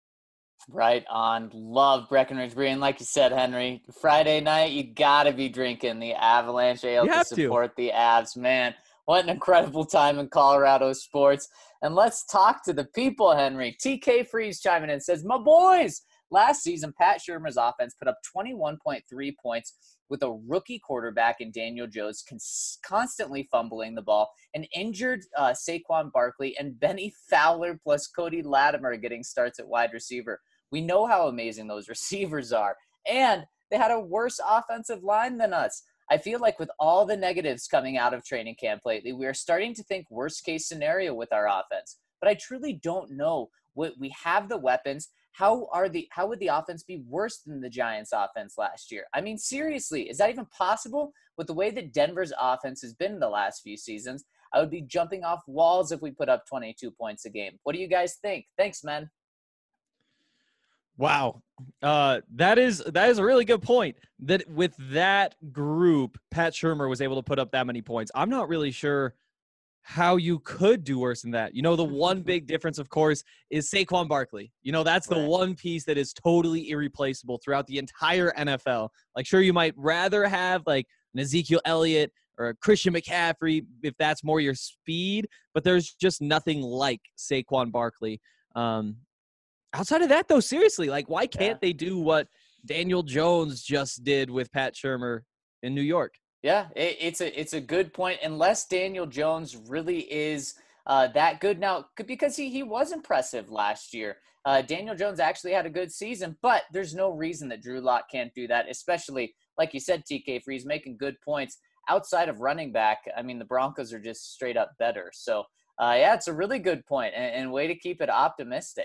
Right on. Love Breckenridge Brewery. And like you said, Henry, Friday night, you got to be drinking the Avalanche Ale to support the Avs. Man, what an incredible time in Colorado sports. And let's talk to the people, Henry. TK Freeze chiming in says, my boys, last season, Pat Shurmur's offense put up 21.3 points with a rookie quarterback in Daniel Jones constantly fumbling the ball, an injured Saquon Barkley, and Benny Fowler plus Cody Latimer getting starts at wide receiver. We know how amazing those receivers are. And they had a worse offensive line than us. I feel like with all the negatives coming out of training camp lately, we are starting to think worst case scenario with our offense. But I truly don't know. We have the weapons. How would the offense be worse than the Giants' offense last year? I mean, seriously, is that even possible? With the way that Denver's offense has been in the last few seasons, I would be jumping off walls if we put up 22 points a game. What do you guys think? Thanks, man. Wow. That is a really good point. That with that group, Pat Shurmur was able to put up that many points. I'm not really sure how you could do worse than that. The one big difference, of course, is Saquon Barkley. That's the one piece that is totally irreplaceable throughout the entire NFL. Like, sure, you might rather have like an Ezekiel Elliott or a Christian McCaffrey if that's more your speed, but there's just nothing like Saquon Barkley. Outside of that, though, seriously, like, why can't they do what Daniel Jones just did with Pat Shurmur in New York? Yeah, it's a good point. Unless Daniel Jones really is that good now, because he was impressive last year. Daniel Jones actually had a good season, but there's no reason that Drew Lock can't do that, especially, like you said, TK Freeze making good points. Outside of running back, I mean, the Broncos are just straight up better. So, yeah, it's a really good point and way to keep it optimistic.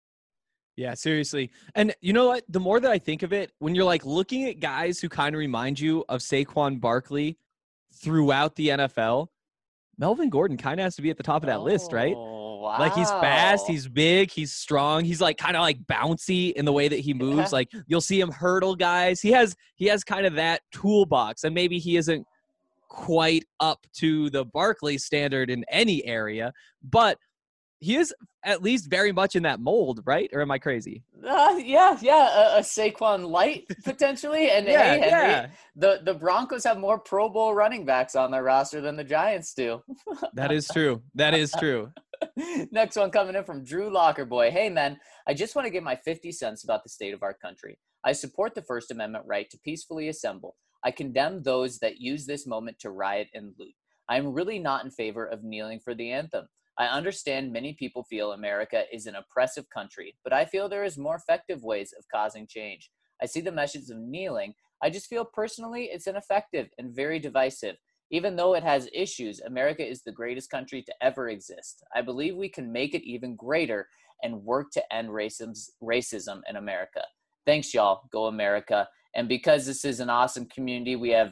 Yeah, seriously. And you know what? The more that I think of it, when you're like looking at guys who kind of remind you of Saquon Barkley throughout the NFL, Melvin Gordon kind of has to be at the top of that list, right? Wow. Like, he's fast, he's big, he's strong, he's like kind of like bouncy in the way that he moves. Like, you'll see him hurdle guys. He has kind of that toolbox, and maybe he isn't quite up to the Barkley standard in any area, but he is at least very much in that mold, right? Or am I crazy? Yeah. A Saquon light potentially. And yeah, hey, Henry, the Broncos have more Pro Bowl running backs on their roster than the Giants do. That is true. That is true. Next one coming in from Drew Lockerboy. Hey, man, I just want to give my 50 cents about the state of our country. I support the First Amendment right to peacefully assemble. I condemn those that use this moment to riot and loot. I'm really not in favor of kneeling for the anthem. I understand many people feel America is an oppressive country, but I feel there is more effective ways of causing change. I see the message of kneeling. I just feel personally it's ineffective and very divisive. Even though it has issues, America is the greatest country to ever exist. I believe we can make it even greater and work to end racism in America. Thanks, y'all. Go America. And because this is an awesome community, we have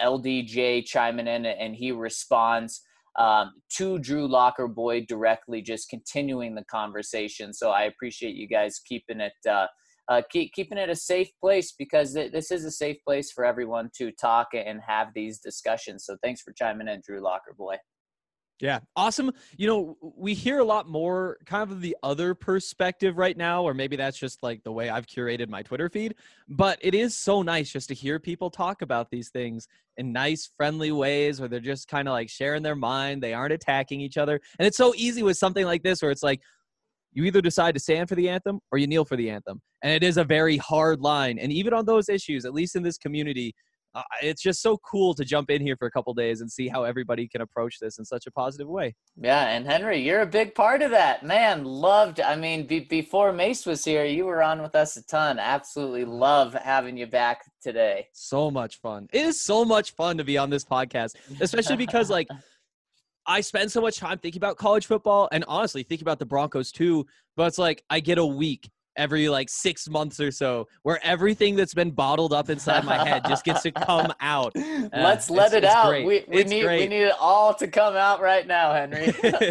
LDJ chiming in, and he responds to Drew Lockerboy directly, just continuing the conversation. So I appreciate you guys keeping it keeping it a safe place, because this is a safe place for everyone to talk and have these discussions. So thanks for chiming in, Drew Lockerboy. Yeah, awesome. We hear a lot more kind of the other perspective right now, or maybe that's just like the way I've curated my Twitter feed. But it is so nice just to hear people talk about these things in nice, friendly ways, where they're just kind of like sharing their mind. They aren't attacking each other. And it's so easy with something like this, where it's like, you either decide to stand for the anthem or you kneel for the anthem. And it is a very hard line. And even on those issues, at least in this community, it's just so cool to jump in here for a couple days and see how everybody can approach this in such a positive way. Yeah, and Henry, you're a big part of that. Man, loved. I mean, before Mace was here, you were on with us a ton. Absolutely love having you back today. So much fun. It is so much fun to be on this podcast, especially because like I spend so much time thinking about college football and honestly thinking about the Broncos too. But it's like I get a week every like 6 months or so where everything that's been bottled up inside my head just gets to come out. Let's let it out. Great. We need it all to come out right now, Henry.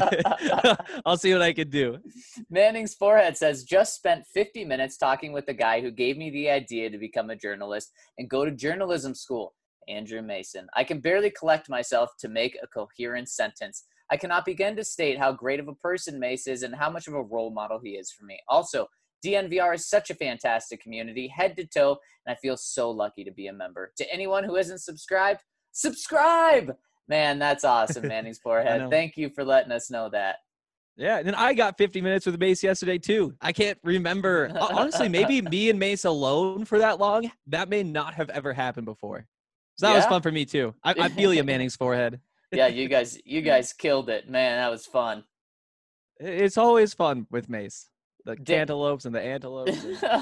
I'll see what I can do. Manning's Forehead says, just spent 50 minutes talking with the guy who gave me the idea to become a journalist and go to journalism school, Andrew Mason. I can barely collect myself to make a coherent sentence. I cannot begin to state how great of a person Mace is and how much of a role model he is for me. Also, DNVR is such a fantastic community, head to toe, and I feel so lucky to be a member. To anyone who isn't subscribed, subscribe! Man, that's awesome, Manning's Forehead. Thank you for letting us know that. Yeah, and then I got 50 minutes with Mace yesterday, too. I can't remember. Honestly, maybe me and Mace alone for that long, that may not have ever happened before. So that was fun for me, too. I feel you, Manning's Forehead. Yeah, you guys killed it. Man, that was fun. It's always fun with Mace. The cantaloupes and the antelopes.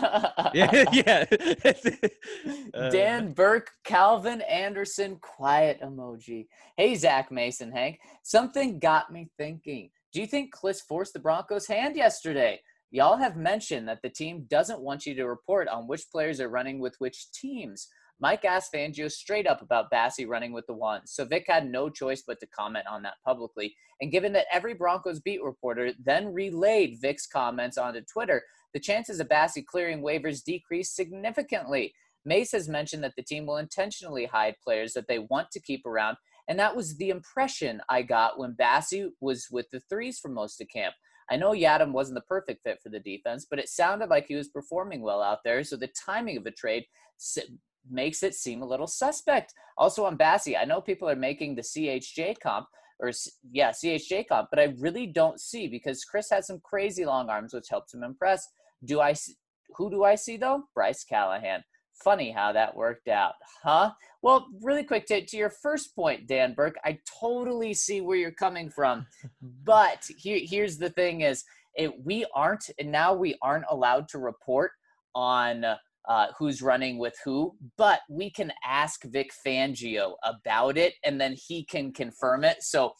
Yeah. Dan Burke, Calvin Anderson, quiet emoji. Hey, Zach Mason, Hank. Something got me thinking. Do you think Kliss forced the Broncos' hand yesterday? Y'all have mentioned that the team doesn't want you to report on which players are running with which teams. Mike asked Fangio straight up about Bassie running with the ones, so Vic had no choice but to comment on that publicly. And given that every Broncos beat reporter then relayed Vic's comments onto Twitter, the chances of Bassie clearing waivers decreased significantly. Mace has mentioned that the team will intentionally hide players that they want to keep around And that was the impression I got when Bassie was with the threes for most of camp. I know Yadam wasn't the perfect fit for the defense, but it sounded like he was performing well out there. So the timing of the trade makes it seem a little suspect. Also on Bassie, I know people are making the CHJ comp, CHJ comp, but I really don't see, because Chris has some crazy long arms, which helps him impress. Who do I see though? Bryce Callahan. Funny how that worked out, huh? Well, really quick, to your first point, Dan Burke, I totally see where you're coming from. But here's the thing is, we aren't allowed to report on who's running with who, but we can ask Vic Fangio about it, and then he can confirm it. So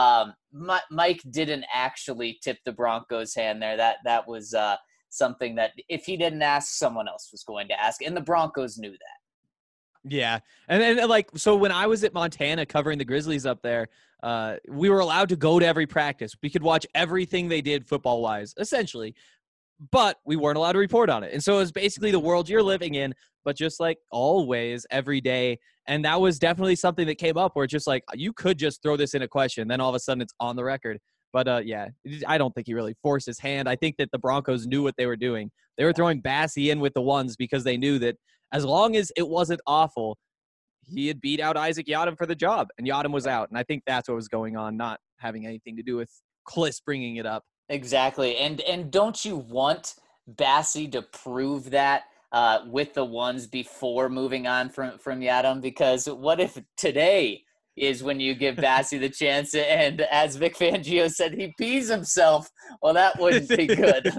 Mike didn't actually tip the Broncos' hand there. That was something that if he didn't ask, someone else was going to ask, and the Broncos knew that. Yeah. And then, like, so when I was at Montana covering the Grizzlies up there, we were allowed to go to every practice. We could watch everything they did football-wise, essentially, but we weren't allowed to report on it. And so it was basically the world you're living in, but just like always, every day. And that was definitely something that came up where it's just like, you could just throw this in a question, then all of a sudden it's on the record. But, yeah, I don't think he really forced his hand. I think that the Broncos knew what they were doing. They were throwing Bassie in with the ones because they knew that as long as it wasn't awful, he had beat out Isaac Yiadom for the job, and Yiadom was out. And I think that's what was going on, not having anything to do with Kliss bringing it up. Exactly. And don't you want Bassie to prove that with the ones before moving on from Yiadom? Because what if today is when you give Bassie the chance, and as Vic Fangio said, he pees himself? Well, that wouldn't be good.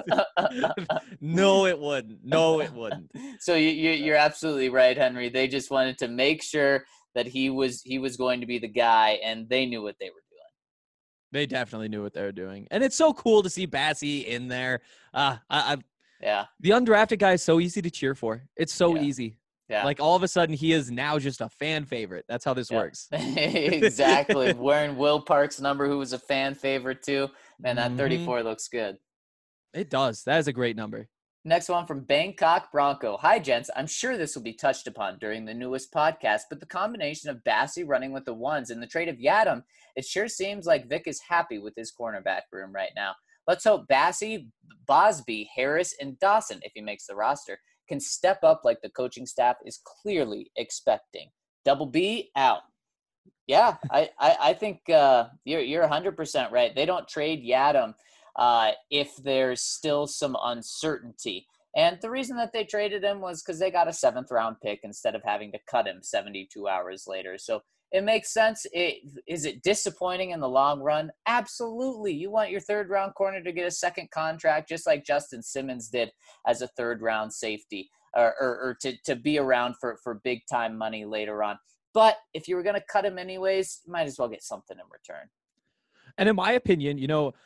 No, it wouldn't. No, it wouldn't. So you're absolutely right, Henry. They just wanted to make sure that he was going to be the guy, and they knew what they were doing. They definitely knew what they were doing. And it's so cool to see Bassie in there. The undrafted guy is so easy to cheer for. It's so easy. Yeah. Like all of a sudden he is now just a fan favorite. That's how this works. Exactly. Wearing Will Park's number, who was a fan favorite too. Man, that 34 looks good. It does. That is a great number. Next one from Bangkok Bronco. Hi, gents. I'm sure this will be touched upon during the newest podcast, but the combination of Bassie running with the ones and the trade of Yiadom, it sure seems like Vic is happy with his cornerback room right now. Let's hope Bassie, Bosby, Harris, and Dawson, if he makes the roster, can step up like the coaching staff is clearly expecting. Double B out. Yeah, I think you're 100% right. They don't trade Yiadom if there's still some uncertainty. And the reason that they traded him was because they got a 7th-round pick instead of having to cut him 72 hours later. So it makes sense. Is it disappointing in the long run? Absolutely. You want your 3rd-round corner to get a second contract, just like Justin Simmons did as a 3rd-round safety, or to be around for big-time money later on. But if you were going to cut him anyways, you might as well get something in return. And in my opinion,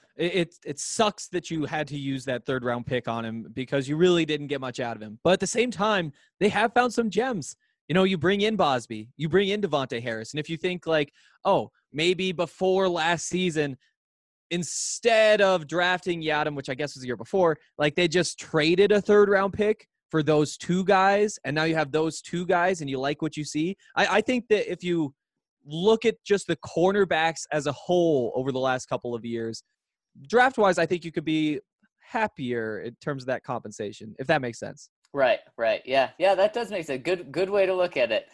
it sucks that you had to use that 3rd-round pick on him because you really didn't get much out of him. But at the same time, they have found some gems. You bring in Bosby, you bring in Devontae Harris. And if you think like, oh, maybe before last season, instead of drafting Yiadom, which I guess was the year before, like they just traded a 3rd-round pick for those 2 guys. And now you have those 2 guys and you like what you see. I think that if you look at just the cornerbacks as a whole over the last couple of years, draft-wise, I think you could be happier in terms of that compensation, if that makes sense. Right. Yeah, that does make sense. Good way to look at it.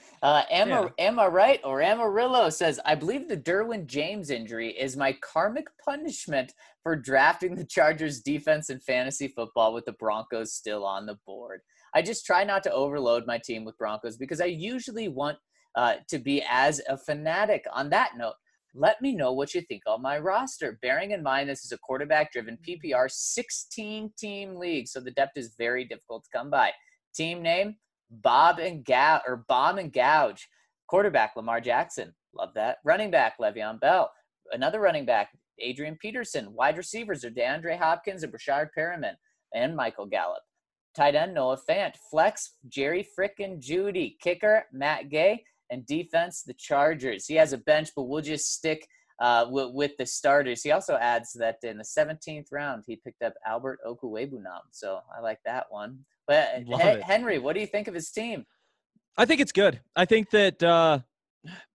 Emma Wright or Amarillo says, I believe the Derwin James injury is my karmic punishment for drafting the Chargers defense in fantasy football with the Broncos still on the board. I just try not to overload my team with Broncos because I usually want to be as a fanatic. On that note, let me know what you think on my roster. Bearing in mind this is a quarterback-driven PPR 16-team league, so the depth is very difficult to come by. Team name, Bomb and Gouge. Quarterback, Lamar Jackson. Love that. Running back, Le'Veon Bell. Another running back, Adrian Peterson. Wide receivers are DeAndre Hopkins and Brashard Perriman and Michael Gallup. Tight end, Noah Fant. Flex, Jerry frickin' Judy. Kicker, Matt Gay. And defense, the Chargers. He has a bench, but we'll just stick with the starters. He also adds that in the 17th round, he picked up Albert Okwuegbunam. So I like that one. But Henry, what do you think of his team? I think it's good. I think that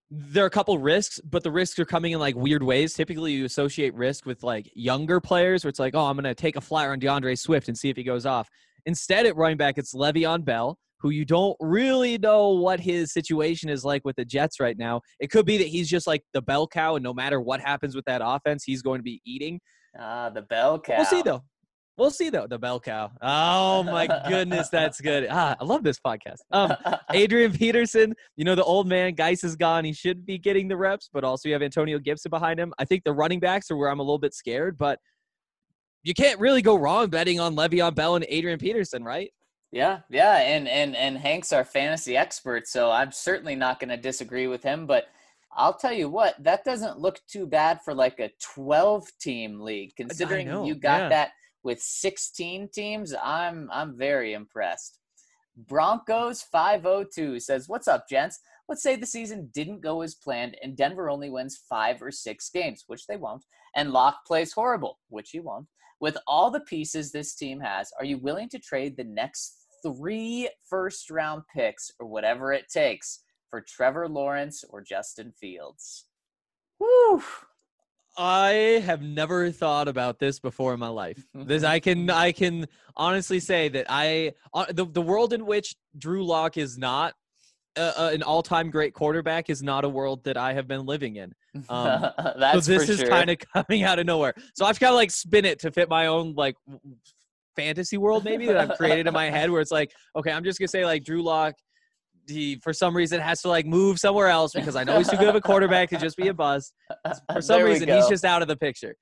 there are a couple risks, but the risks are coming in like weird ways. Typically, you associate risk with like younger players, where it's like, oh, I'm going to take a flyer on DeAndre Swift and see if he goes off. Instead, at running back, it's Le'Veon Bell, who you don't really know what his situation is like with the Jets right now. It could be that he's just like the bell cow, and no matter what happens with that offense, he's going to be eating. The bell cow. We'll see, though. The bell cow. Oh, my goodness, that's good. I love this podcast. Adrian Peterson, the old man, Geis is gone. He should be getting the reps, but also you have Antonio Gibson behind him. I think the running backs are where I'm a little bit scared, but you can't really go wrong betting on Le'Veon Bell and Adrian Peterson, right? Yeah, and Hank's our fantasy expert, so I'm certainly not going to disagree with him, but I'll tell you what, that doesn't look too bad for like a 12-team league, considering you got that with 16 teams. I'm very impressed. Broncos 502 says, what's up, gents? Let's say the season didn't go as planned and Denver only wins 5 or 6 games, which they won't, and Locke plays horrible, which he won't. With all the pieces this team has, are you willing to trade the next 3 first-round picks or whatever it takes for Trevor Lawrence or Justin Fields? Woo! I have never thought about this before in my life. I can honestly say that the world in which Drew Lock is not an all-time great quarterback is not a world that I have been living in. So this is kind of coming out of nowhere. So I've got to like spin it to fit my own like fantasy world maybe that I've created in my head, where it's like, okay, I'm just gonna say like Drew Lock, he for some reason has to like move somewhere else because I know he's too good of a quarterback to just be a bust. For some reason, he's just out of the picture.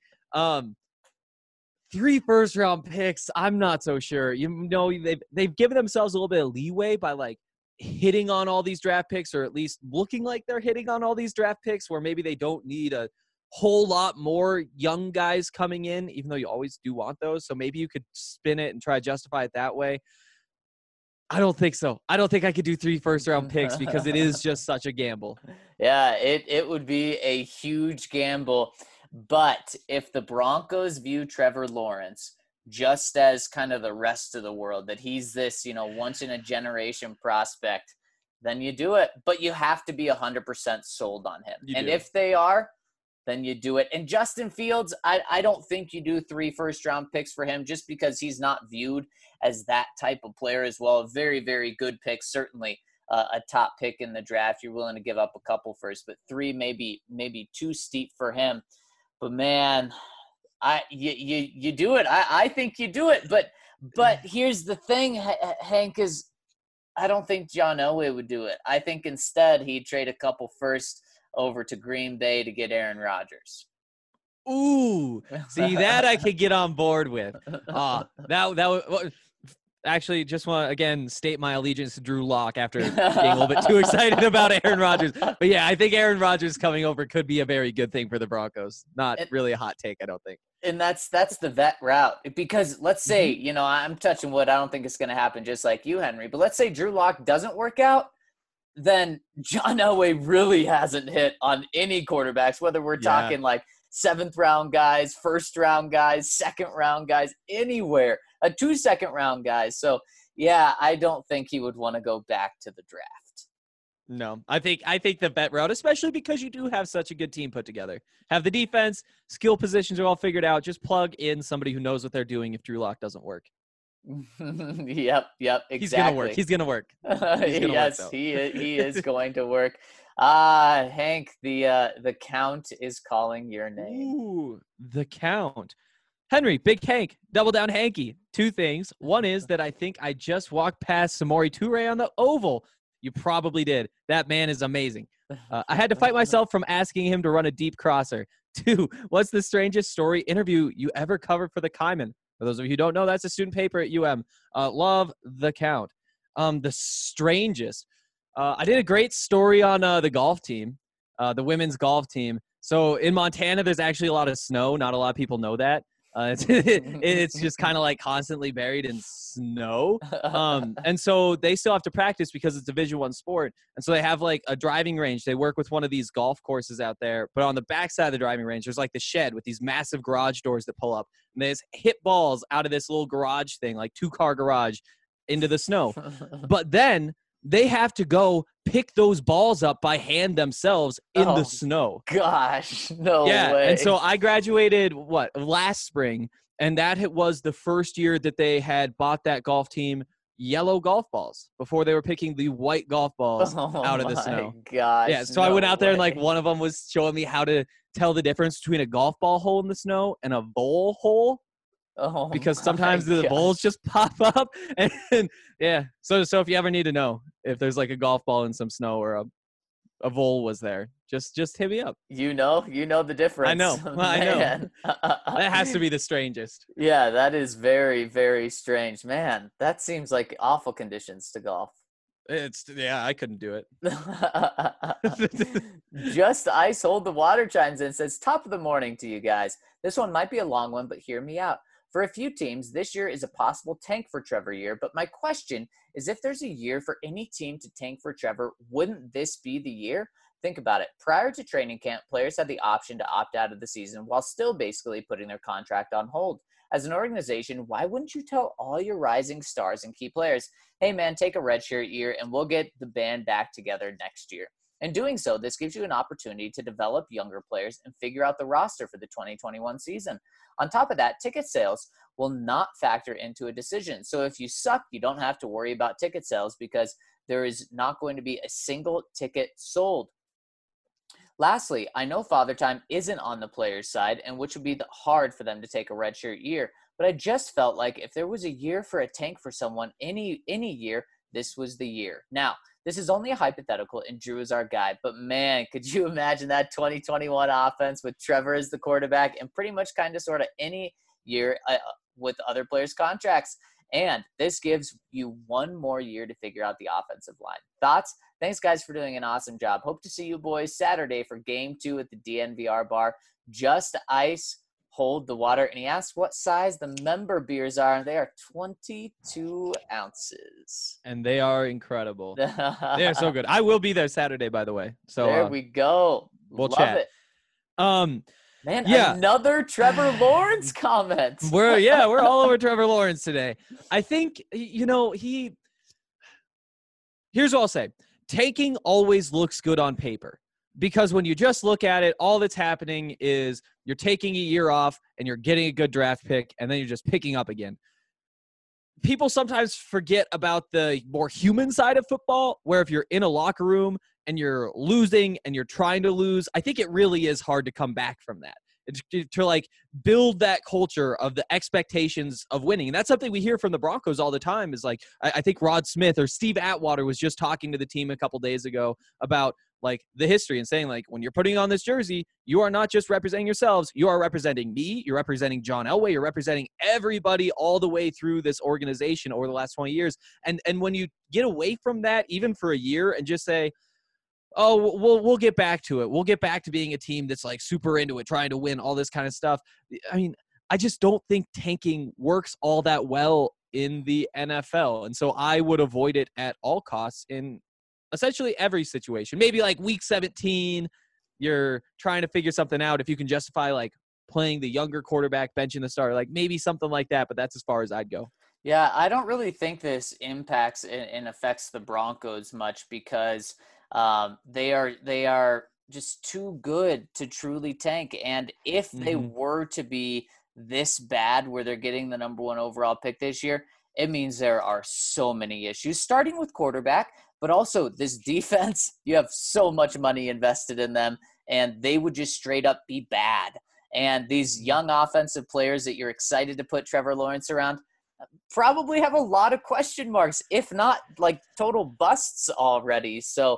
3 first-round picks, I'm not so sure. They've given themselves a little bit of leeway by like hitting on all these draft picks, or at least looking like they're hitting on all these draft picks, where maybe they don't need a whole lot more young guys coming in, even though you always do want those. So maybe you could spin it and try to justify it that way. I don't think so. I don't think I could do 3 first-round picks because it is just such a gamble. Yeah, it would be a huge gamble. But if the Broncos view Trevor Lawrence just as kind of the rest of the world, that he's this, once-in-a-generation prospect, then you do it. But you have to be 100% sold on him. If they are, then you do it. And Justin Fields, I don't think you do 3 first-round picks for him just because he's not viewed as that type of player as well. A very, very good pick, certainly a top pick in the draft. You're willing to give up a couple first, but 3 maybe too steep for him. But man, you do it. I think you do it. But here's the thing, Hank, is I don't think John Elway would do it. I think instead he'd trade a couple first over to Green Bay to get Aaron Rodgers. Ooh, see, that I could get on board with. Actually, just want to, again, state my allegiance to Drew Lock after being a little bit too excited about Aaron Rodgers. But, yeah, I think Aaron Rodgers coming over could be a very good thing for the Broncos. Not really a hot take, I don't think. And that's the vet route. Because let's say, I'm touching wood. I don't think it's going to happen just like you, Henry. But let's say Drew Lock doesn't work out. Then John Elway really hasn't hit on any quarterbacks, whether we're talking like 7th-round guys, 1st-round guys, 2nd-round guys, anywhere. 2 2nd-round guys. So, yeah, I don't think he would want to go back to the draft. No, I think the vet route, especially because you do have such a good team put together. Have the defense, skill positions are all figured out. Just plug in somebody who knows what they're doing if Drew Lock doesn't work. Yep, exactly. He's gonna work. Yes, he is going to work. Hank, the Count is calling your name. Ooh, the Count. Henry, Big Hank, Double Down Hanky. 2 things. One is that I think I just walked past Samori Toure on the Oval. You probably did. That man is amazing. I had to fight myself from asking him to run a deep crosser. 2, what's the strangest story interview you ever covered for the Kaiman? For those of you who don't know, that's a student paper at UM. Love the Count. The strangest. I did a great story on the golf team, the women's golf team. So in Montana, there's actually a lot of snow. Not a lot of people know that. It's just kind of like constantly buried in snow. And so they still have to practice because it's a Division I sport. And so they have like a driving range. They work with one of these golf courses out there, but on the backside of the driving range, there's like the shed with these massive garage doors that pull up. And they just hit balls out of this little garage thing, like 2-car garage into the snow. But then they have to go pick those balls up by hand themselves in Oh, the snow. Gosh, no Yeah, way. and so I graduated last spring, and that was the first year that they had bought that golf team yellow golf balls before they were picking the white golf balls out of the snow. Gosh, Yeah, so I went no out there and like way. one of them was showing me how to tell the difference between a golf ball hole in the snow and a bowl hole, Oh because my sometimes the gosh. bowls just pop up. And yeah, so if you ever need to know if there's like a golf ball in some snow or a vole was there, just hit me up. You know the difference. I know. I know. Man. That has to be the strangest. Yeah, that is very, very strange. Man, that seems like awful conditions to golf. I couldn't do it. Just Ice Hold the Water chimes in, says, top of the morning to you guys. This one might be a long one, but hear me out. For a few teams, this year is a possible tank for Trevor year, but my question is, if there's a year for any team to tank for Trevor, wouldn't this be the year? Think about it. Prior to training camp, players had the option to opt out of the season while still basically putting their contract on hold. As an organization, why wouldn't you tell all your rising stars and key players, hey man, take a redshirt year and we'll get the band back together next year? In doing so, this gives you an opportunity to develop younger players and figure out the roster for the 2021 season. On top of that, ticket sales will not factor into a decision. So if you suck, you don't have to worry about ticket sales because there is not going to be a single ticket sold. Lastly, I know Father Time isn't on the players' side, and which would be hard for them to take a redshirt year, but I just felt like if there was a year for a tank for someone, any year, this was the year. Now, this is only a hypothetical, and Drew is our guy, but man, could you imagine that 2021 offense with Trevor as the quarterback and pretty much kind of sort of any year with other players' contracts? And this gives you one more year to figure out the offensive line. Thoughts? Thanks, guys, for doing an awesome job. Hope to see you boys Saturday for Game 2 at the DNVR bar. Just Ice Hold the Water. And he asked what size the member beers are, and they are 22 ounces. And they are incredible. They are so good. I will be there Saturday, by the way. So there we go. We'll Love chat. it. Man, yeah. Another Trevor Lawrence comment. We're all over Trevor Lawrence today. I think, here's what I'll say. Tanking always looks good on paper because when you just look at it, all that's happening is you're taking a year off and you're getting a good draft pick, and then you're just picking up again. People sometimes forget about the more human side of football, where if you're in a locker room and you're losing and you're trying to lose, I think it really is hard to come back from that. To like build that culture of the expectations of winning. And that's something we hear from the Broncos all the time is like, I think Rod Smith or Steve Atwater was just talking to the team a couple days ago about like the history and saying like, when you're putting on this jersey, you are not just representing yourselves. You are representing me. You're representing John Elway. You're representing everybody all the way through this organization over the last 20 years. And when you get away from that, even for a year, and just say, oh, we'll get back to it. We'll get back to being a team that's like super into it, trying to win, all this kind of stuff. I mean, I just don't think tanking works all that well in the NFL. And so I would avoid it at all costs in essentially every situation. Maybe like week 17, you're trying to figure something out. If you can justify like playing the younger quarterback, benching the starter, like maybe something like that, but that's as far as I'd go. Yeah, I don't really think this impacts and affects the Broncos much because they are just too good to truly tank. And if they were to be this bad where they're getting the number 1 overall pick this year, it means there are so many issues, starting with quarterback, but also this defense. You have so much money invested in them, and they would just straight up be bad. And these young offensive players that you're excited to put Trevor Lawrence around probably have a lot of question marks, if not like total busts already. So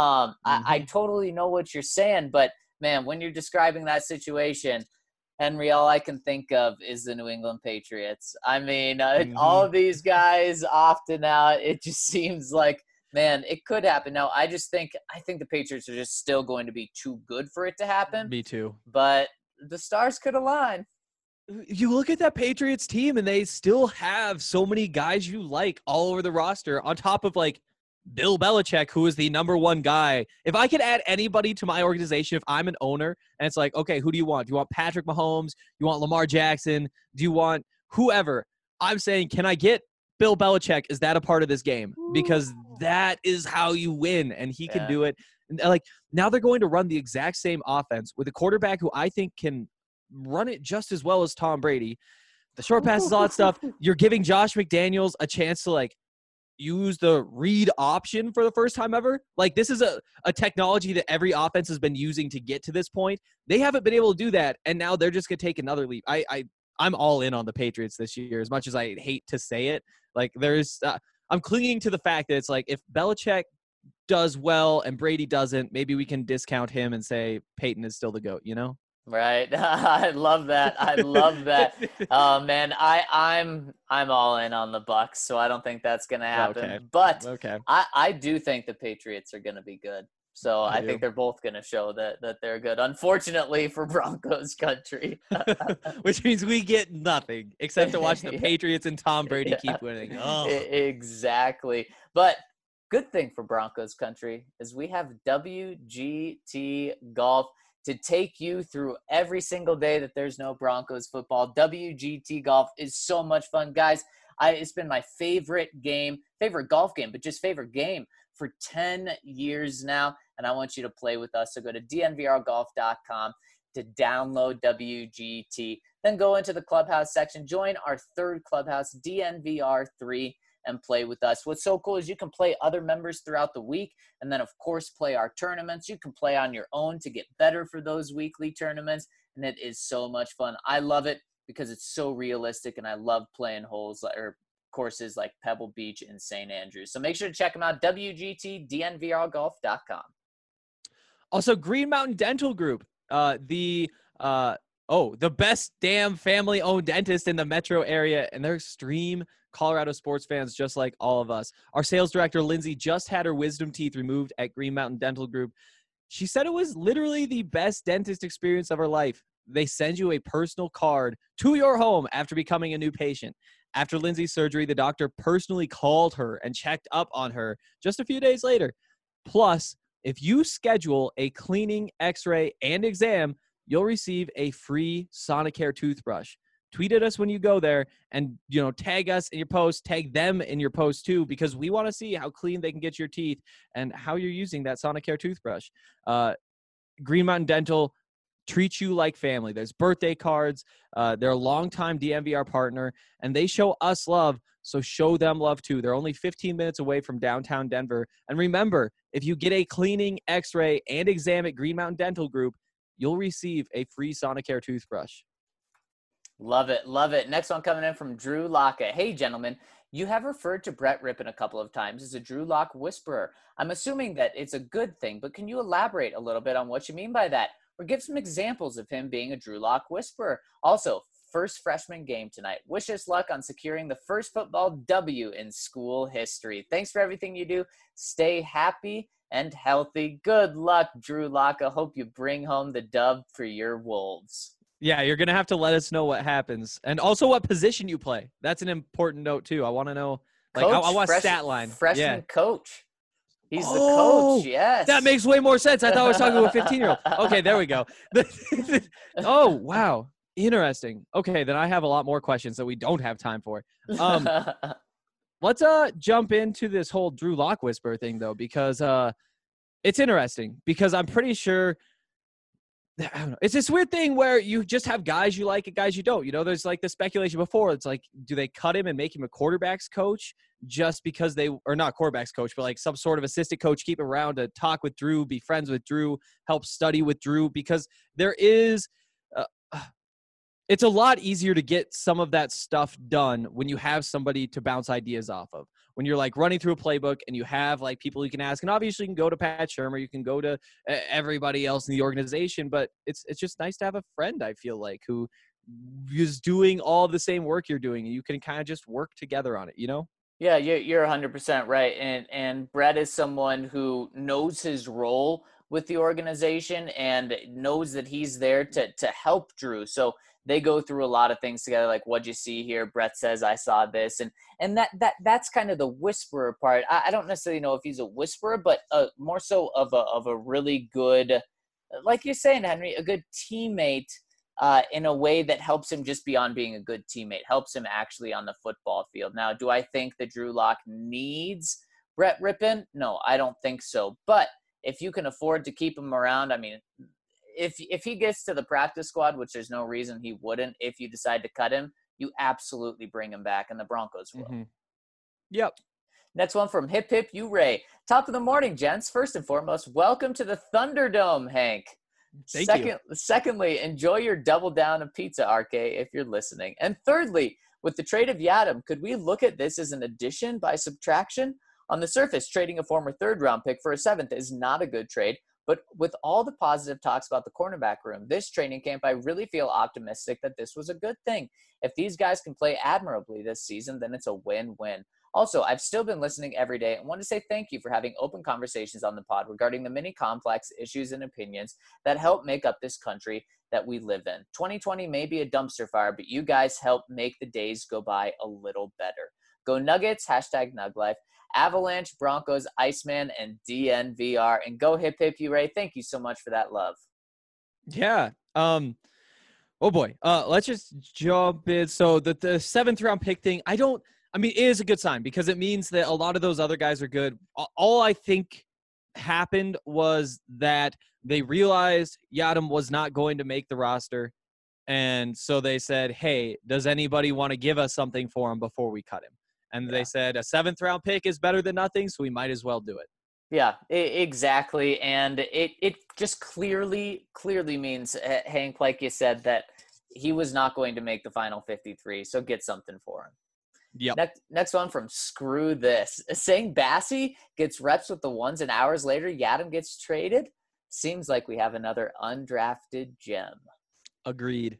I totally know what you're saying, but man, when you're describing that situation, Henry, all I can think of is the New England Patriots. I mean, all of these guys often out, it just seems like, man, it could happen. Now, I think the Patriots are just still going to be too good for it to happen. Me too. But the stars could align. You look at that Patriots team and they still have so many guys you like all over the roster on top of like Bill Belichick, who is the number 1 guy. If I could add anybody to my organization, if I'm an owner and it's like, okay, who do you want? Do you want Patrick Mahomes? You want Lamar Jackson? Do you want whoever? I'm saying, can I get Bill Belichick? Is that a part of this game? Because that is how you win, and he can Yeah. do it. And like now they're going to run the exact same offense with a quarterback who I think can run it just as well as Tom Brady. The short passes, all that stuff. You're giving Josh McDaniels a chance to like use the read option for the first time ever. Like this is a technology that every offense has been using to get to this point. They haven't been able to do that, and now they're just gonna take another leap. I'm all in on the Patriots this year, as much as I hate to say it. Like I'm clinging to the fact that it's like if Belichick does well and Brady doesn't, maybe we can discount him and say Peyton is still the GOAT, you know? Right. I love that. I love that. Man, I'm all in on the Bucks, so I don't think that's gonna happen. Okay. But Okay. I do think the Patriots are gonna be good. So I do. think they're both gonna show that they're good. Unfortunately for Broncos country. Which means we get nothing except to watch the Yeah. Patriots and Tom Brady Yeah. keep winning. Oh. Exactly. But good thing for Broncos country is we have WGT Golf to take you through every single day that there's no Broncos football. WGT Golf is so much fun, guys. It's been my favorite golf game, but just favorite game for 10 years now, and I want you to play with us. So go to dnvrgolf.com to download WGT. Then go into the clubhouse section, join our third clubhouse, DNVR3, and play with us. What's so cool is you can play other members throughout the week, and then of course play our tournaments. You can play on your own to get better for those weekly tournaments, and it is so much fun. I love it because it's so realistic, and I love playing courses like Pebble Beach and St. Andrews. So make sure to check them out, WGTDNVRgolf.com. Also, Green Mountain Dental Group, the best damn family-owned dentist in the metro area, and they're extreme Colorado sports fans just like all of us. Our sales director, Lindsay, just had her wisdom teeth removed at Green Mountain Dental Group. She said it was literally the best dentist experience of her life. They send you a personal card to your home after becoming a new patient. After Lindsay's surgery, the doctor personally called her and checked up on her just a few days later. Plus, if you schedule a cleaning, x-ray, and exam, you'll receive a free Sonicare toothbrush. Tweet at us when you go there and, tag us in your post, tag them in your post too, because we want to see how clean they can get your teeth and how you're using that Sonicare toothbrush. Green Mountain Dental treats you like family. There's birthday cards. They're a longtime DNVR partner, and they show us love, so show them love too. They're only 15 minutes away from downtown Denver. And remember, if you get a cleaning, x-ray, and exam at Green Mountain Dental Group, you'll receive a free Sonicare toothbrush. Love it. Love it. Next one coming in from Drew Locke. Hey, gentlemen, you have referred to Brett Rippon a couple of times as a Drew Lock whisperer. I'm assuming that it's a good thing, but can you elaborate a little bit on what you mean by that? Or give some examples of him being a Drew Lock whisperer. Also, first freshman game tonight. Wish us luck on securing the first football W in school history. Thanks for everything you do. Stay happy and healthy. Good luck, Drew Lock. I hope you bring home the dub for your Wolves. Yeah, you're going to have to let us know what happens. And also what position you play. That's an important note, too. I want to know. I want a stat line. Freshman coach. He's the coach, yes. That makes way more sense. I thought I was talking to a 15-year-old. Okay, there we go. Oh, wow. Interesting. Okay, then I have a lot more questions that we don't have time for. Let's jump into this whole Drew Lock whisper thing, though, because it's interesting. Because I'm pretty sure – I don't know. It's this weird thing where you just have guys you like and guys you don't. There's like the speculation before. It's like, do they cut him and make him a quarterback's coach just because or not quarterback's coach, but like some sort of assistant coach, keep him around to talk with Drew, be friends with Drew, help study with Drew? Because there is it's a lot easier to get some of that stuff done when you have somebody to bounce ideas off of. When you're like running through a playbook and you have like people you can ask, and obviously you can go to Pat Shurmur, you can go to everybody else in the organization, but it's just nice to have a friend, I feel like, who is doing all the same work you're doing, and you can kind of just work together on it, Yeah, you're 100% right. And Brett is someone who knows his role with the organization and knows that he's there to help Drew. So they go through a lot of things together, like, what'd you see here? Brett says, I saw this. And that's kind of the whisperer part. I don't necessarily know if he's a whisperer, but more so of a really good, like you're saying, Henry, a good teammate in a way that helps him just beyond being a good teammate, helps him actually on the football field. Now, do I think that Drew Lock needs Brett Rippon? No, I don't think so. But if you can afford to keep him around, I mean, if he gets to the practice squad, which there's no reason he wouldn't, if you decide to cut him, you absolutely bring him back, and the Broncos will. Mhm. Yep. Next one from Hip Hip You Ray. Top of the morning, gents. First and foremost, welcome to the Thunderdome, Hank. Thank you. Secondly, enjoy your double down of pizza, RK, if you're listening. And thirdly, with the trade of Yadam, could we look at this as an addition by subtraction? On the surface, trading a former third-round pick for a seventh is not a good trade, but with all the positive talks about the cornerback room, this training camp, I really feel optimistic that this was a good thing. If these guys can play admirably this season, then it's a win-win. Also, I've still been listening every day and want to say thank you for having open conversations on the pod regarding the many complex issues and opinions that help make up this country that we live in. 2020 may be a dumpster fire, but you guys help make the days go by a little better. Go Nuggets, #NugLife, Avalanche, Broncos, Iceman, and DNVR. And go Hip Hip You Ray. Thank you so much for that love. Yeah. Oh boy. Let's just jump in. So the seventh round pick thing, it is a good sign because it means that a lot of those other guys are good. All I think happened was that they realized Yadam was not going to make the roster. And so they said, hey, does anybody want to give us something for him before we cut him? And they said a seventh round pick is better than nothing, so we might as well do it. Yeah, exactly. And it just clearly means, Hank, like you said, that he was not going to make the final 53. So get something for him. Yep. Next one from Screw This. Saying Bassie gets reps with the ones and hours later Yadam gets traded? Seems like we have another undrafted gem. Agreed.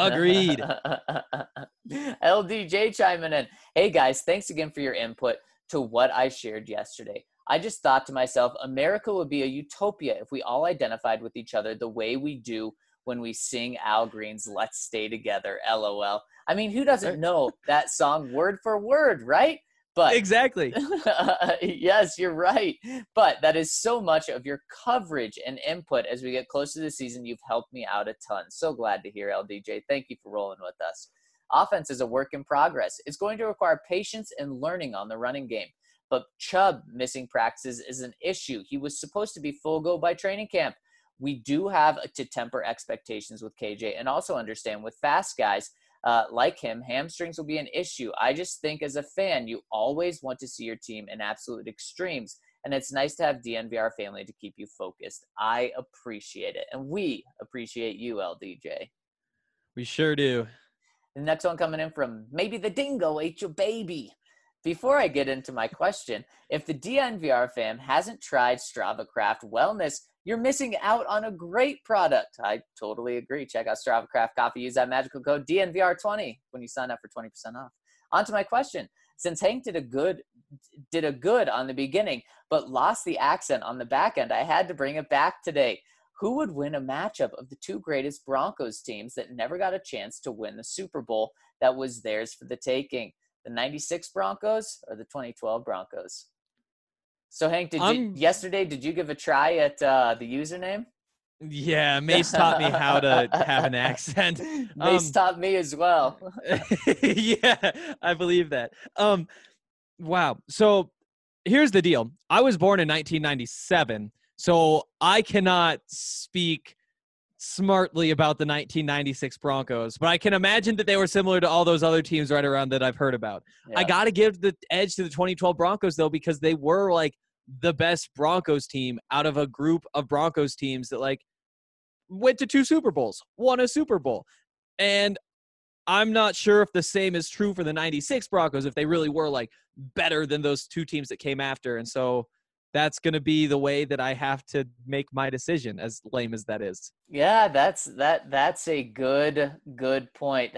LDJ chiming in. Hey guys, thanks again for your input to what I shared yesterday. I just thought to myself, America would be a utopia if we all identified with each other the way we do when we sing Al Green's Let's Stay Together, LOL. I mean, who doesn't know that song word for word, right? But exactly. Yes, you're right. But that is so much of your coverage and input as we get close to the season. You've helped me out a ton. So glad to hear, LDJ. Thank you for rolling with us. Offense is a work in progress. It's going to require patience and learning on the running game. But Chubb missing practices is an issue. He was supposed to be full go by training camp. We do have to temper expectations with KJ and also understand with fast guys like him, hamstrings will be an issue. I just think as a fan, you always want to see your team in absolute extremes. And it's nice to have DNVR family to keep you focused. I appreciate it. And we appreciate you, LDJ. We sure do. The next one coming in from Maybe the Dingo Ate Your Baby. Before I get into my question, if the DNVR fam hasn't tried Strava Craft Wellness, you're missing out on a great product. I totally agree. Check out Strava Craft Coffee. Use that magical code DNVR20 when you sign up for 20% off. On to my question. Since Hank did a good on the beginning, but lost the accent on the back end, I had to bring it back today. Who would win a matchup of the two greatest Broncos teams that never got a chance to win the Super Bowl that was theirs for the taking? The 96 Broncos or the 2012 Broncos? So, Hank, yesterday, did you give a try at the username? Yeah, Mace taught me how to have an accent. Mace taught me as well. Yeah, I believe that. Wow. So here's the deal. I was born in 1997, so I cannot speak smartly about the 1996 Broncos, but I can imagine that they were similar to all those other teams right around that I've heard about. Yeah. I got to give the edge to the 2012 Broncos, though, because they were like the best Broncos team out of a group of Broncos teams that like went to 2 Super Bowls, won a Super Bowl. And I'm not sure if the same is true for the 96 Broncos, if they really were like better than those 2 teams that came after. And so that's going to be the way that I have to make my decision, as lame as that is. Yeah, that's a good point.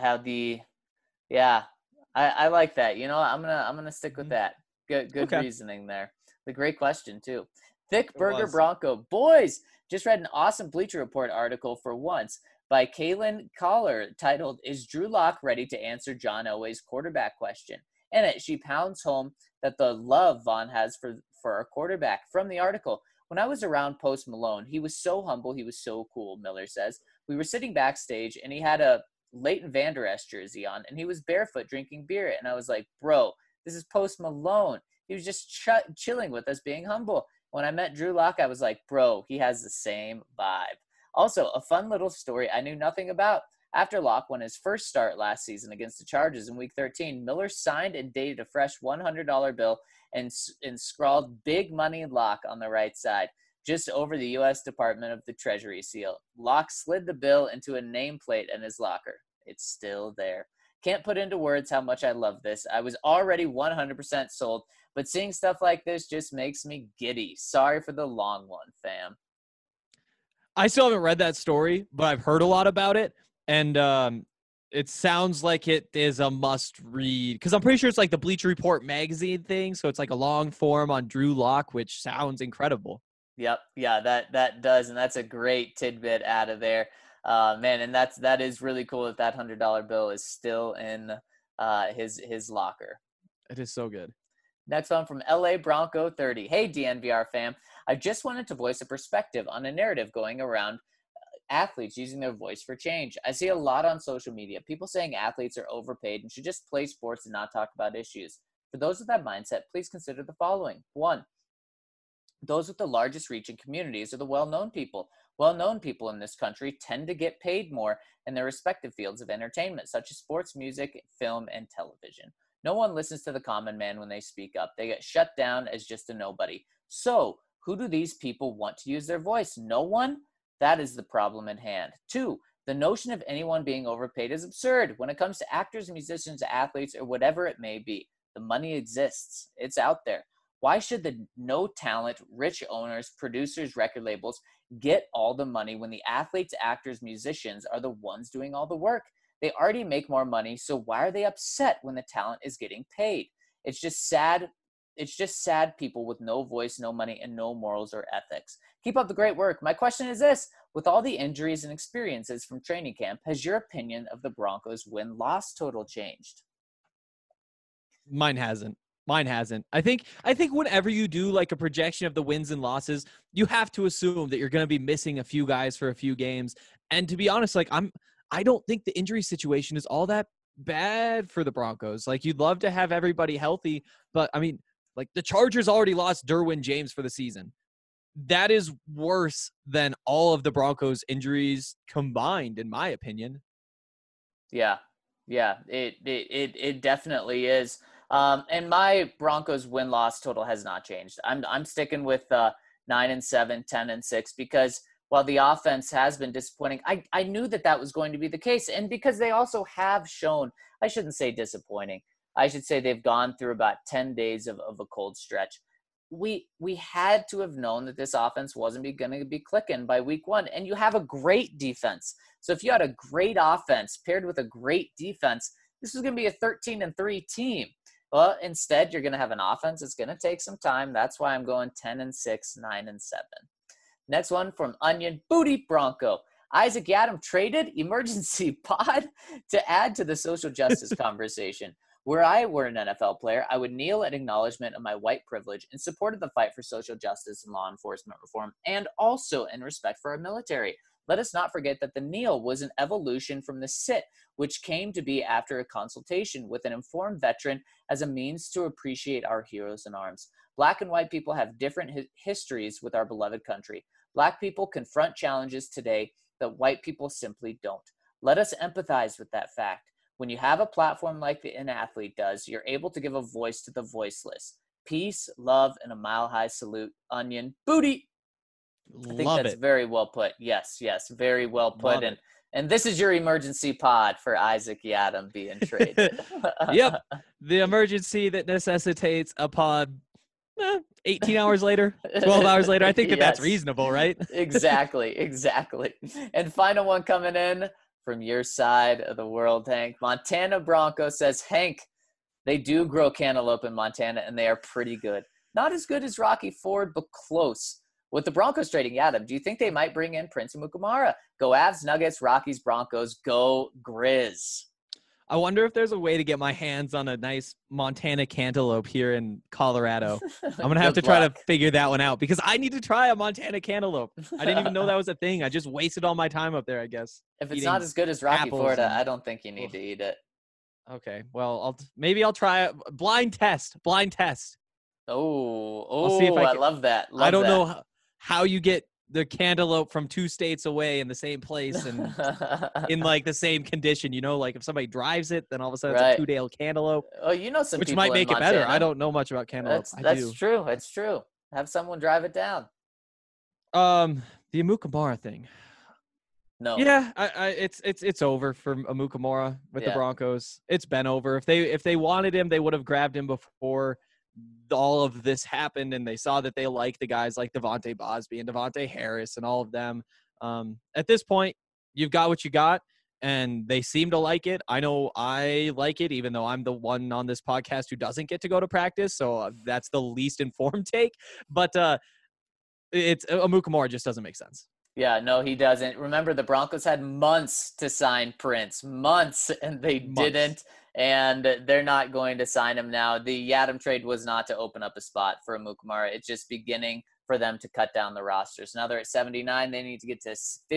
I like that. You know, I'm gonna stick with that. Good okay. Reasoning there. The great question too. Thick Burger Bronco boys just read an awesome Bleacher Report article for once by Kaylin Collar titled "Is Drew Lock Ready to Answer John Elway's Quarterback Question?" In it, she pounds home that the love Vaughn has for our quarterback. From the article, when I was around Post Malone, he was so humble, he was so cool, Miller says. We were sitting backstage, and he had a Leighton Vander Esch jersey on, and he was barefoot drinking beer. And I was like, bro, this is Post Malone. He was just chilling with us, being humble. When I met Drew Lock, I was like, bro, he has the same vibe. Also, a fun little story I knew nothing about. After Lock won his first start last season against the Chargers in Week 13, Miller signed and dated a fresh $100 bill and scrawled "Big Money Lock" on the right side, just over the U.S. Department of the Treasury seal. Lock slid the bill into a nameplate in his locker. It's still there. Can't put into words how much I love this. I was already 100% sold, but seeing stuff like this just makes me giddy. Sorry for the long one, fam. I still haven't read that story, but I've heard a lot about it. And it sounds like it is a must read because I'm pretty sure it's like the Bleacher Report magazine thing. So it's like a long form on Drew Lock, which sounds incredible. Yep. Yeah, that does. And that's a great tidbit out of there. Man, and that is really cool that $100 bill is still in his locker. It is so good. Next one from LA Bronco 30. Hey, DNVR fam. I just wanted to voice a perspective on a narrative going around athletes using their voice for change. I see a lot on social media, people saying athletes are overpaid and should just play sports and not talk about issues. For those with that mindset, please consider the following. 1, those with the largest reach in communities are the well-known people. Well-known people in this country tend to get paid more in their respective fields of entertainment, such as sports, music, film, and television. No one listens to the common man when they speak up. They get shut down as just a nobody. So, who do these people want to use their voice? No one? That is the problem in hand. 2, the notion of anyone being overpaid is absurd. When it comes to actors, musicians, athletes, or whatever it may be, the money exists. It's out there. Why should the no talent, rich owners, producers, record labels get all the money when the athletes, actors, musicians are the ones doing all the work? They already make more money, so why are they upset when the talent is getting paid? It's just sad. It's just sad people with no voice, no money, and no morals or ethics. Keep up the great work. My question is this. With all the injuries and experiences from training camp, has your opinion of the Broncos' win-loss total changed? Mine hasn't. I think whenever you do like a projection of the wins and losses, you have to assume that you're going to be missing a few guys for a few games. And to be honest, like I don't think the injury situation is all that bad for the Broncos. Like you'd love to have everybody healthy, but I mean, like the Chargers already lost Derwin James for the season. That is worse than all of the Broncos injuries combined, in my opinion. Yeah, it definitely is. And my Broncos win-loss total has not changed. I'm sticking with 9-7, 10-6 because while the offense has been disappointing, I knew that was going to be the case. And because they also have shown, I shouldn't say disappointing, I should say they've gone through about 10 days of a cold stretch. We had to have known that this offense wasn't going to be clicking by week 1. And you have a great defense. So if you had a great offense paired with a great defense, this was going to be a 13-3 team. Well, instead, you're going to have an offense that's going to take some time. That's why I'm going 10-6, 9-7. Next one from Onion Booty Bronco. Isaac Yiadom traded emergency pod to add to the social justice conversation. Were I were an NFL player, I would kneel in acknowledgement of my white privilege in support of the fight for social justice and law enforcement reform, and also in respect for our military. Let us not forget that the kneel was an evolution from the sit, which came to be after a consultation with an informed veteran as a means to appreciate our heroes in arms. Black and white people have different histories with our beloved country. Black people confront challenges today that white people simply don't. Let us empathize with that fact. When you have a platform like an athlete does, you're able to give a voice to the voiceless. Peace, love, and a mile-high salute. Onion Booty. I think that's very well put. Yes, very well put. And this is your emergency pod for Isaac Yiadom being traded. Yep, the emergency that necessitates a pod 18 hours later, 12 hours later. I think that's reasonable, right? Exactly. And final one coming in from your side of the world, Hank. Montana Bronco says, Hank, they do grow cantaloupe in Montana, and they are pretty good. Not as good as Rocky Ford, but close. With the Broncos trading Yiadom, do you think they might bring in Prince Amukamara? Go Avs, Nuggets, Rockies, Broncos, go Grizz. I wonder if there's a way to get my hands on a nice Montana cantaloupe here in Colorado. I'm going to have to try to figure that one out because I need to try a Montana cantaloupe. I didn't even know that was a thing. I just wasted all my time up there, I guess. If it's not as good as Rocky Ford, I don't think you need to eat it. Okay. Well, maybe I'll try it. Blind test. Oh, see if I can- love that. I don't know how you get the cantaloupe from 2 states away in the same place and in like the same condition. You know, like if somebody drives it, then all of a sudden Right. it's a 2-day cantaloupe, Oh, you know some which people might in make it better. Montana. I don't know much about cantaloupe. That's I do. true. It's true. Have someone drive it down. The Amukamara thing. No. Yeah, it's over for Amukamara with the Yeah. Broncos. It's been over. If they wanted him, they would have grabbed him before all of this happened, and they saw that they like the guys like Devontae Bosby and Devontae Harris and all of them. At this point, you've got what you got, and they seem to like it. I know I like it, even though I'm the one on this podcast who doesn't get to go to practice, so that's the least informed take. But it's Amukamara just doesn't make sense. Yeah, no, he doesn't. Remember, the Broncos had months to sign Prince, months, and they didn't. And they're not going to sign him now. The Yadam trade was not to open up a spot for Amukamara. It's just beginning for them to cut down the rosters. Now they're at 79. They need to get to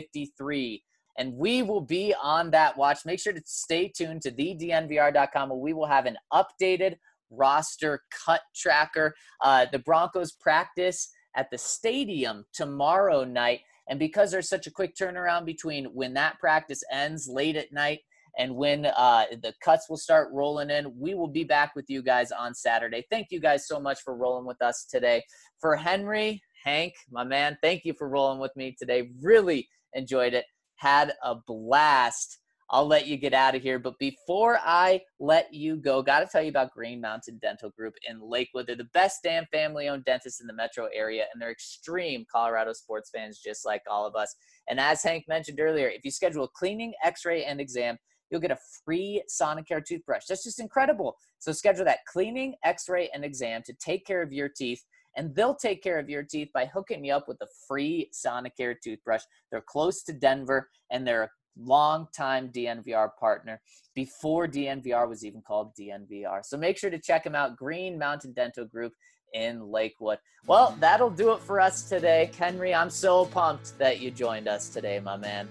53. And we will be on that watch. Make sure to stay tuned to thednvr.com where we will have an updated roster cut tracker. The Broncos practice at the stadium tomorrow night. And because there's such a quick turnaround between when that practice ends late at night and when the cuts will start rolling in, we will be back with you guys on Saturday. Thank you guys so much for rolling with us today. For Henry, Hank, my man, thank you for rolling with me today. Really enjoyed it. Had a blast. I'll let you get out of here. But before I let you go, got to tell you about Green Mountain Dental Group in Lakewood. They're the best damn family-owned dentists in the metro area, and they're extreme Colorado sports fans just like all of us. And as Hank mentioned earlier, if you schedule a cleaning, x-ray, and exam, you'll get a free Sonicare toothbrush. That's just incredible. So schedule that cleaning, x-ray, and exam to take care of your teeth, and they'll take care of your teeth by hooking you up with a free Sonicare toothbrush. They're close to Denver, and they're a long-time DNVR partner before DNVR was even called DNVR. So make sure to check them out, Green Mountain Dental Group in Lakewood. Well, that'll do it for us today. Henry, I'm so pumped that you joined us today, my man.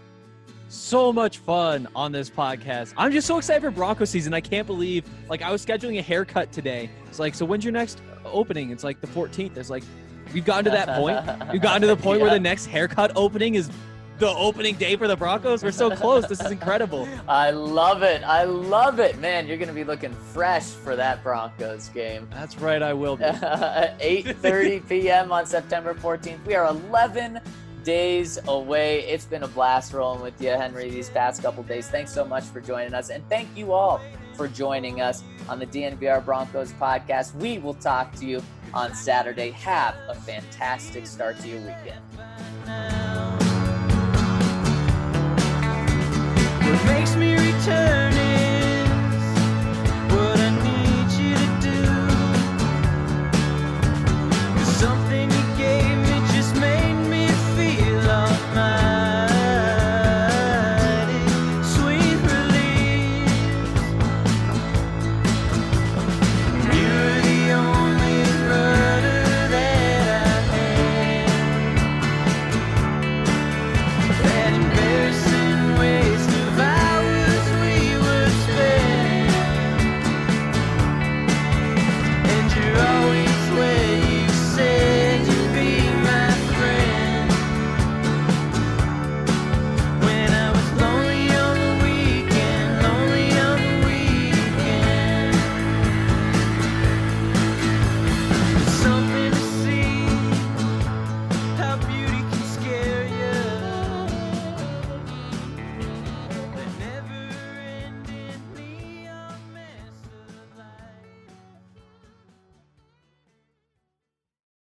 So much fun on this podcast. I'm just so excited for Bronco season. I can't believe, like, I was scheduling a haircut today. It's like, so when's your next opening? It's like the 14th. It's like, we've gotten to that point. We've gotten to the point where the next haircut opening is the opening day for the Broncos. We're so close. This is incredible. I love it. I love it. Man, you're going to be looking fresh for that Broncos game. That's right, I will be. 8:30 p.m. on September 14th. We are 11 days away. It's been a blast rolling with you, Henry, these past couple days. Thanks so much for joining us. And thank you all for joining us on the DNVR Broncos podcast. We will talk to you on Saturday. Have a fantastic start to your weekend. What makes me return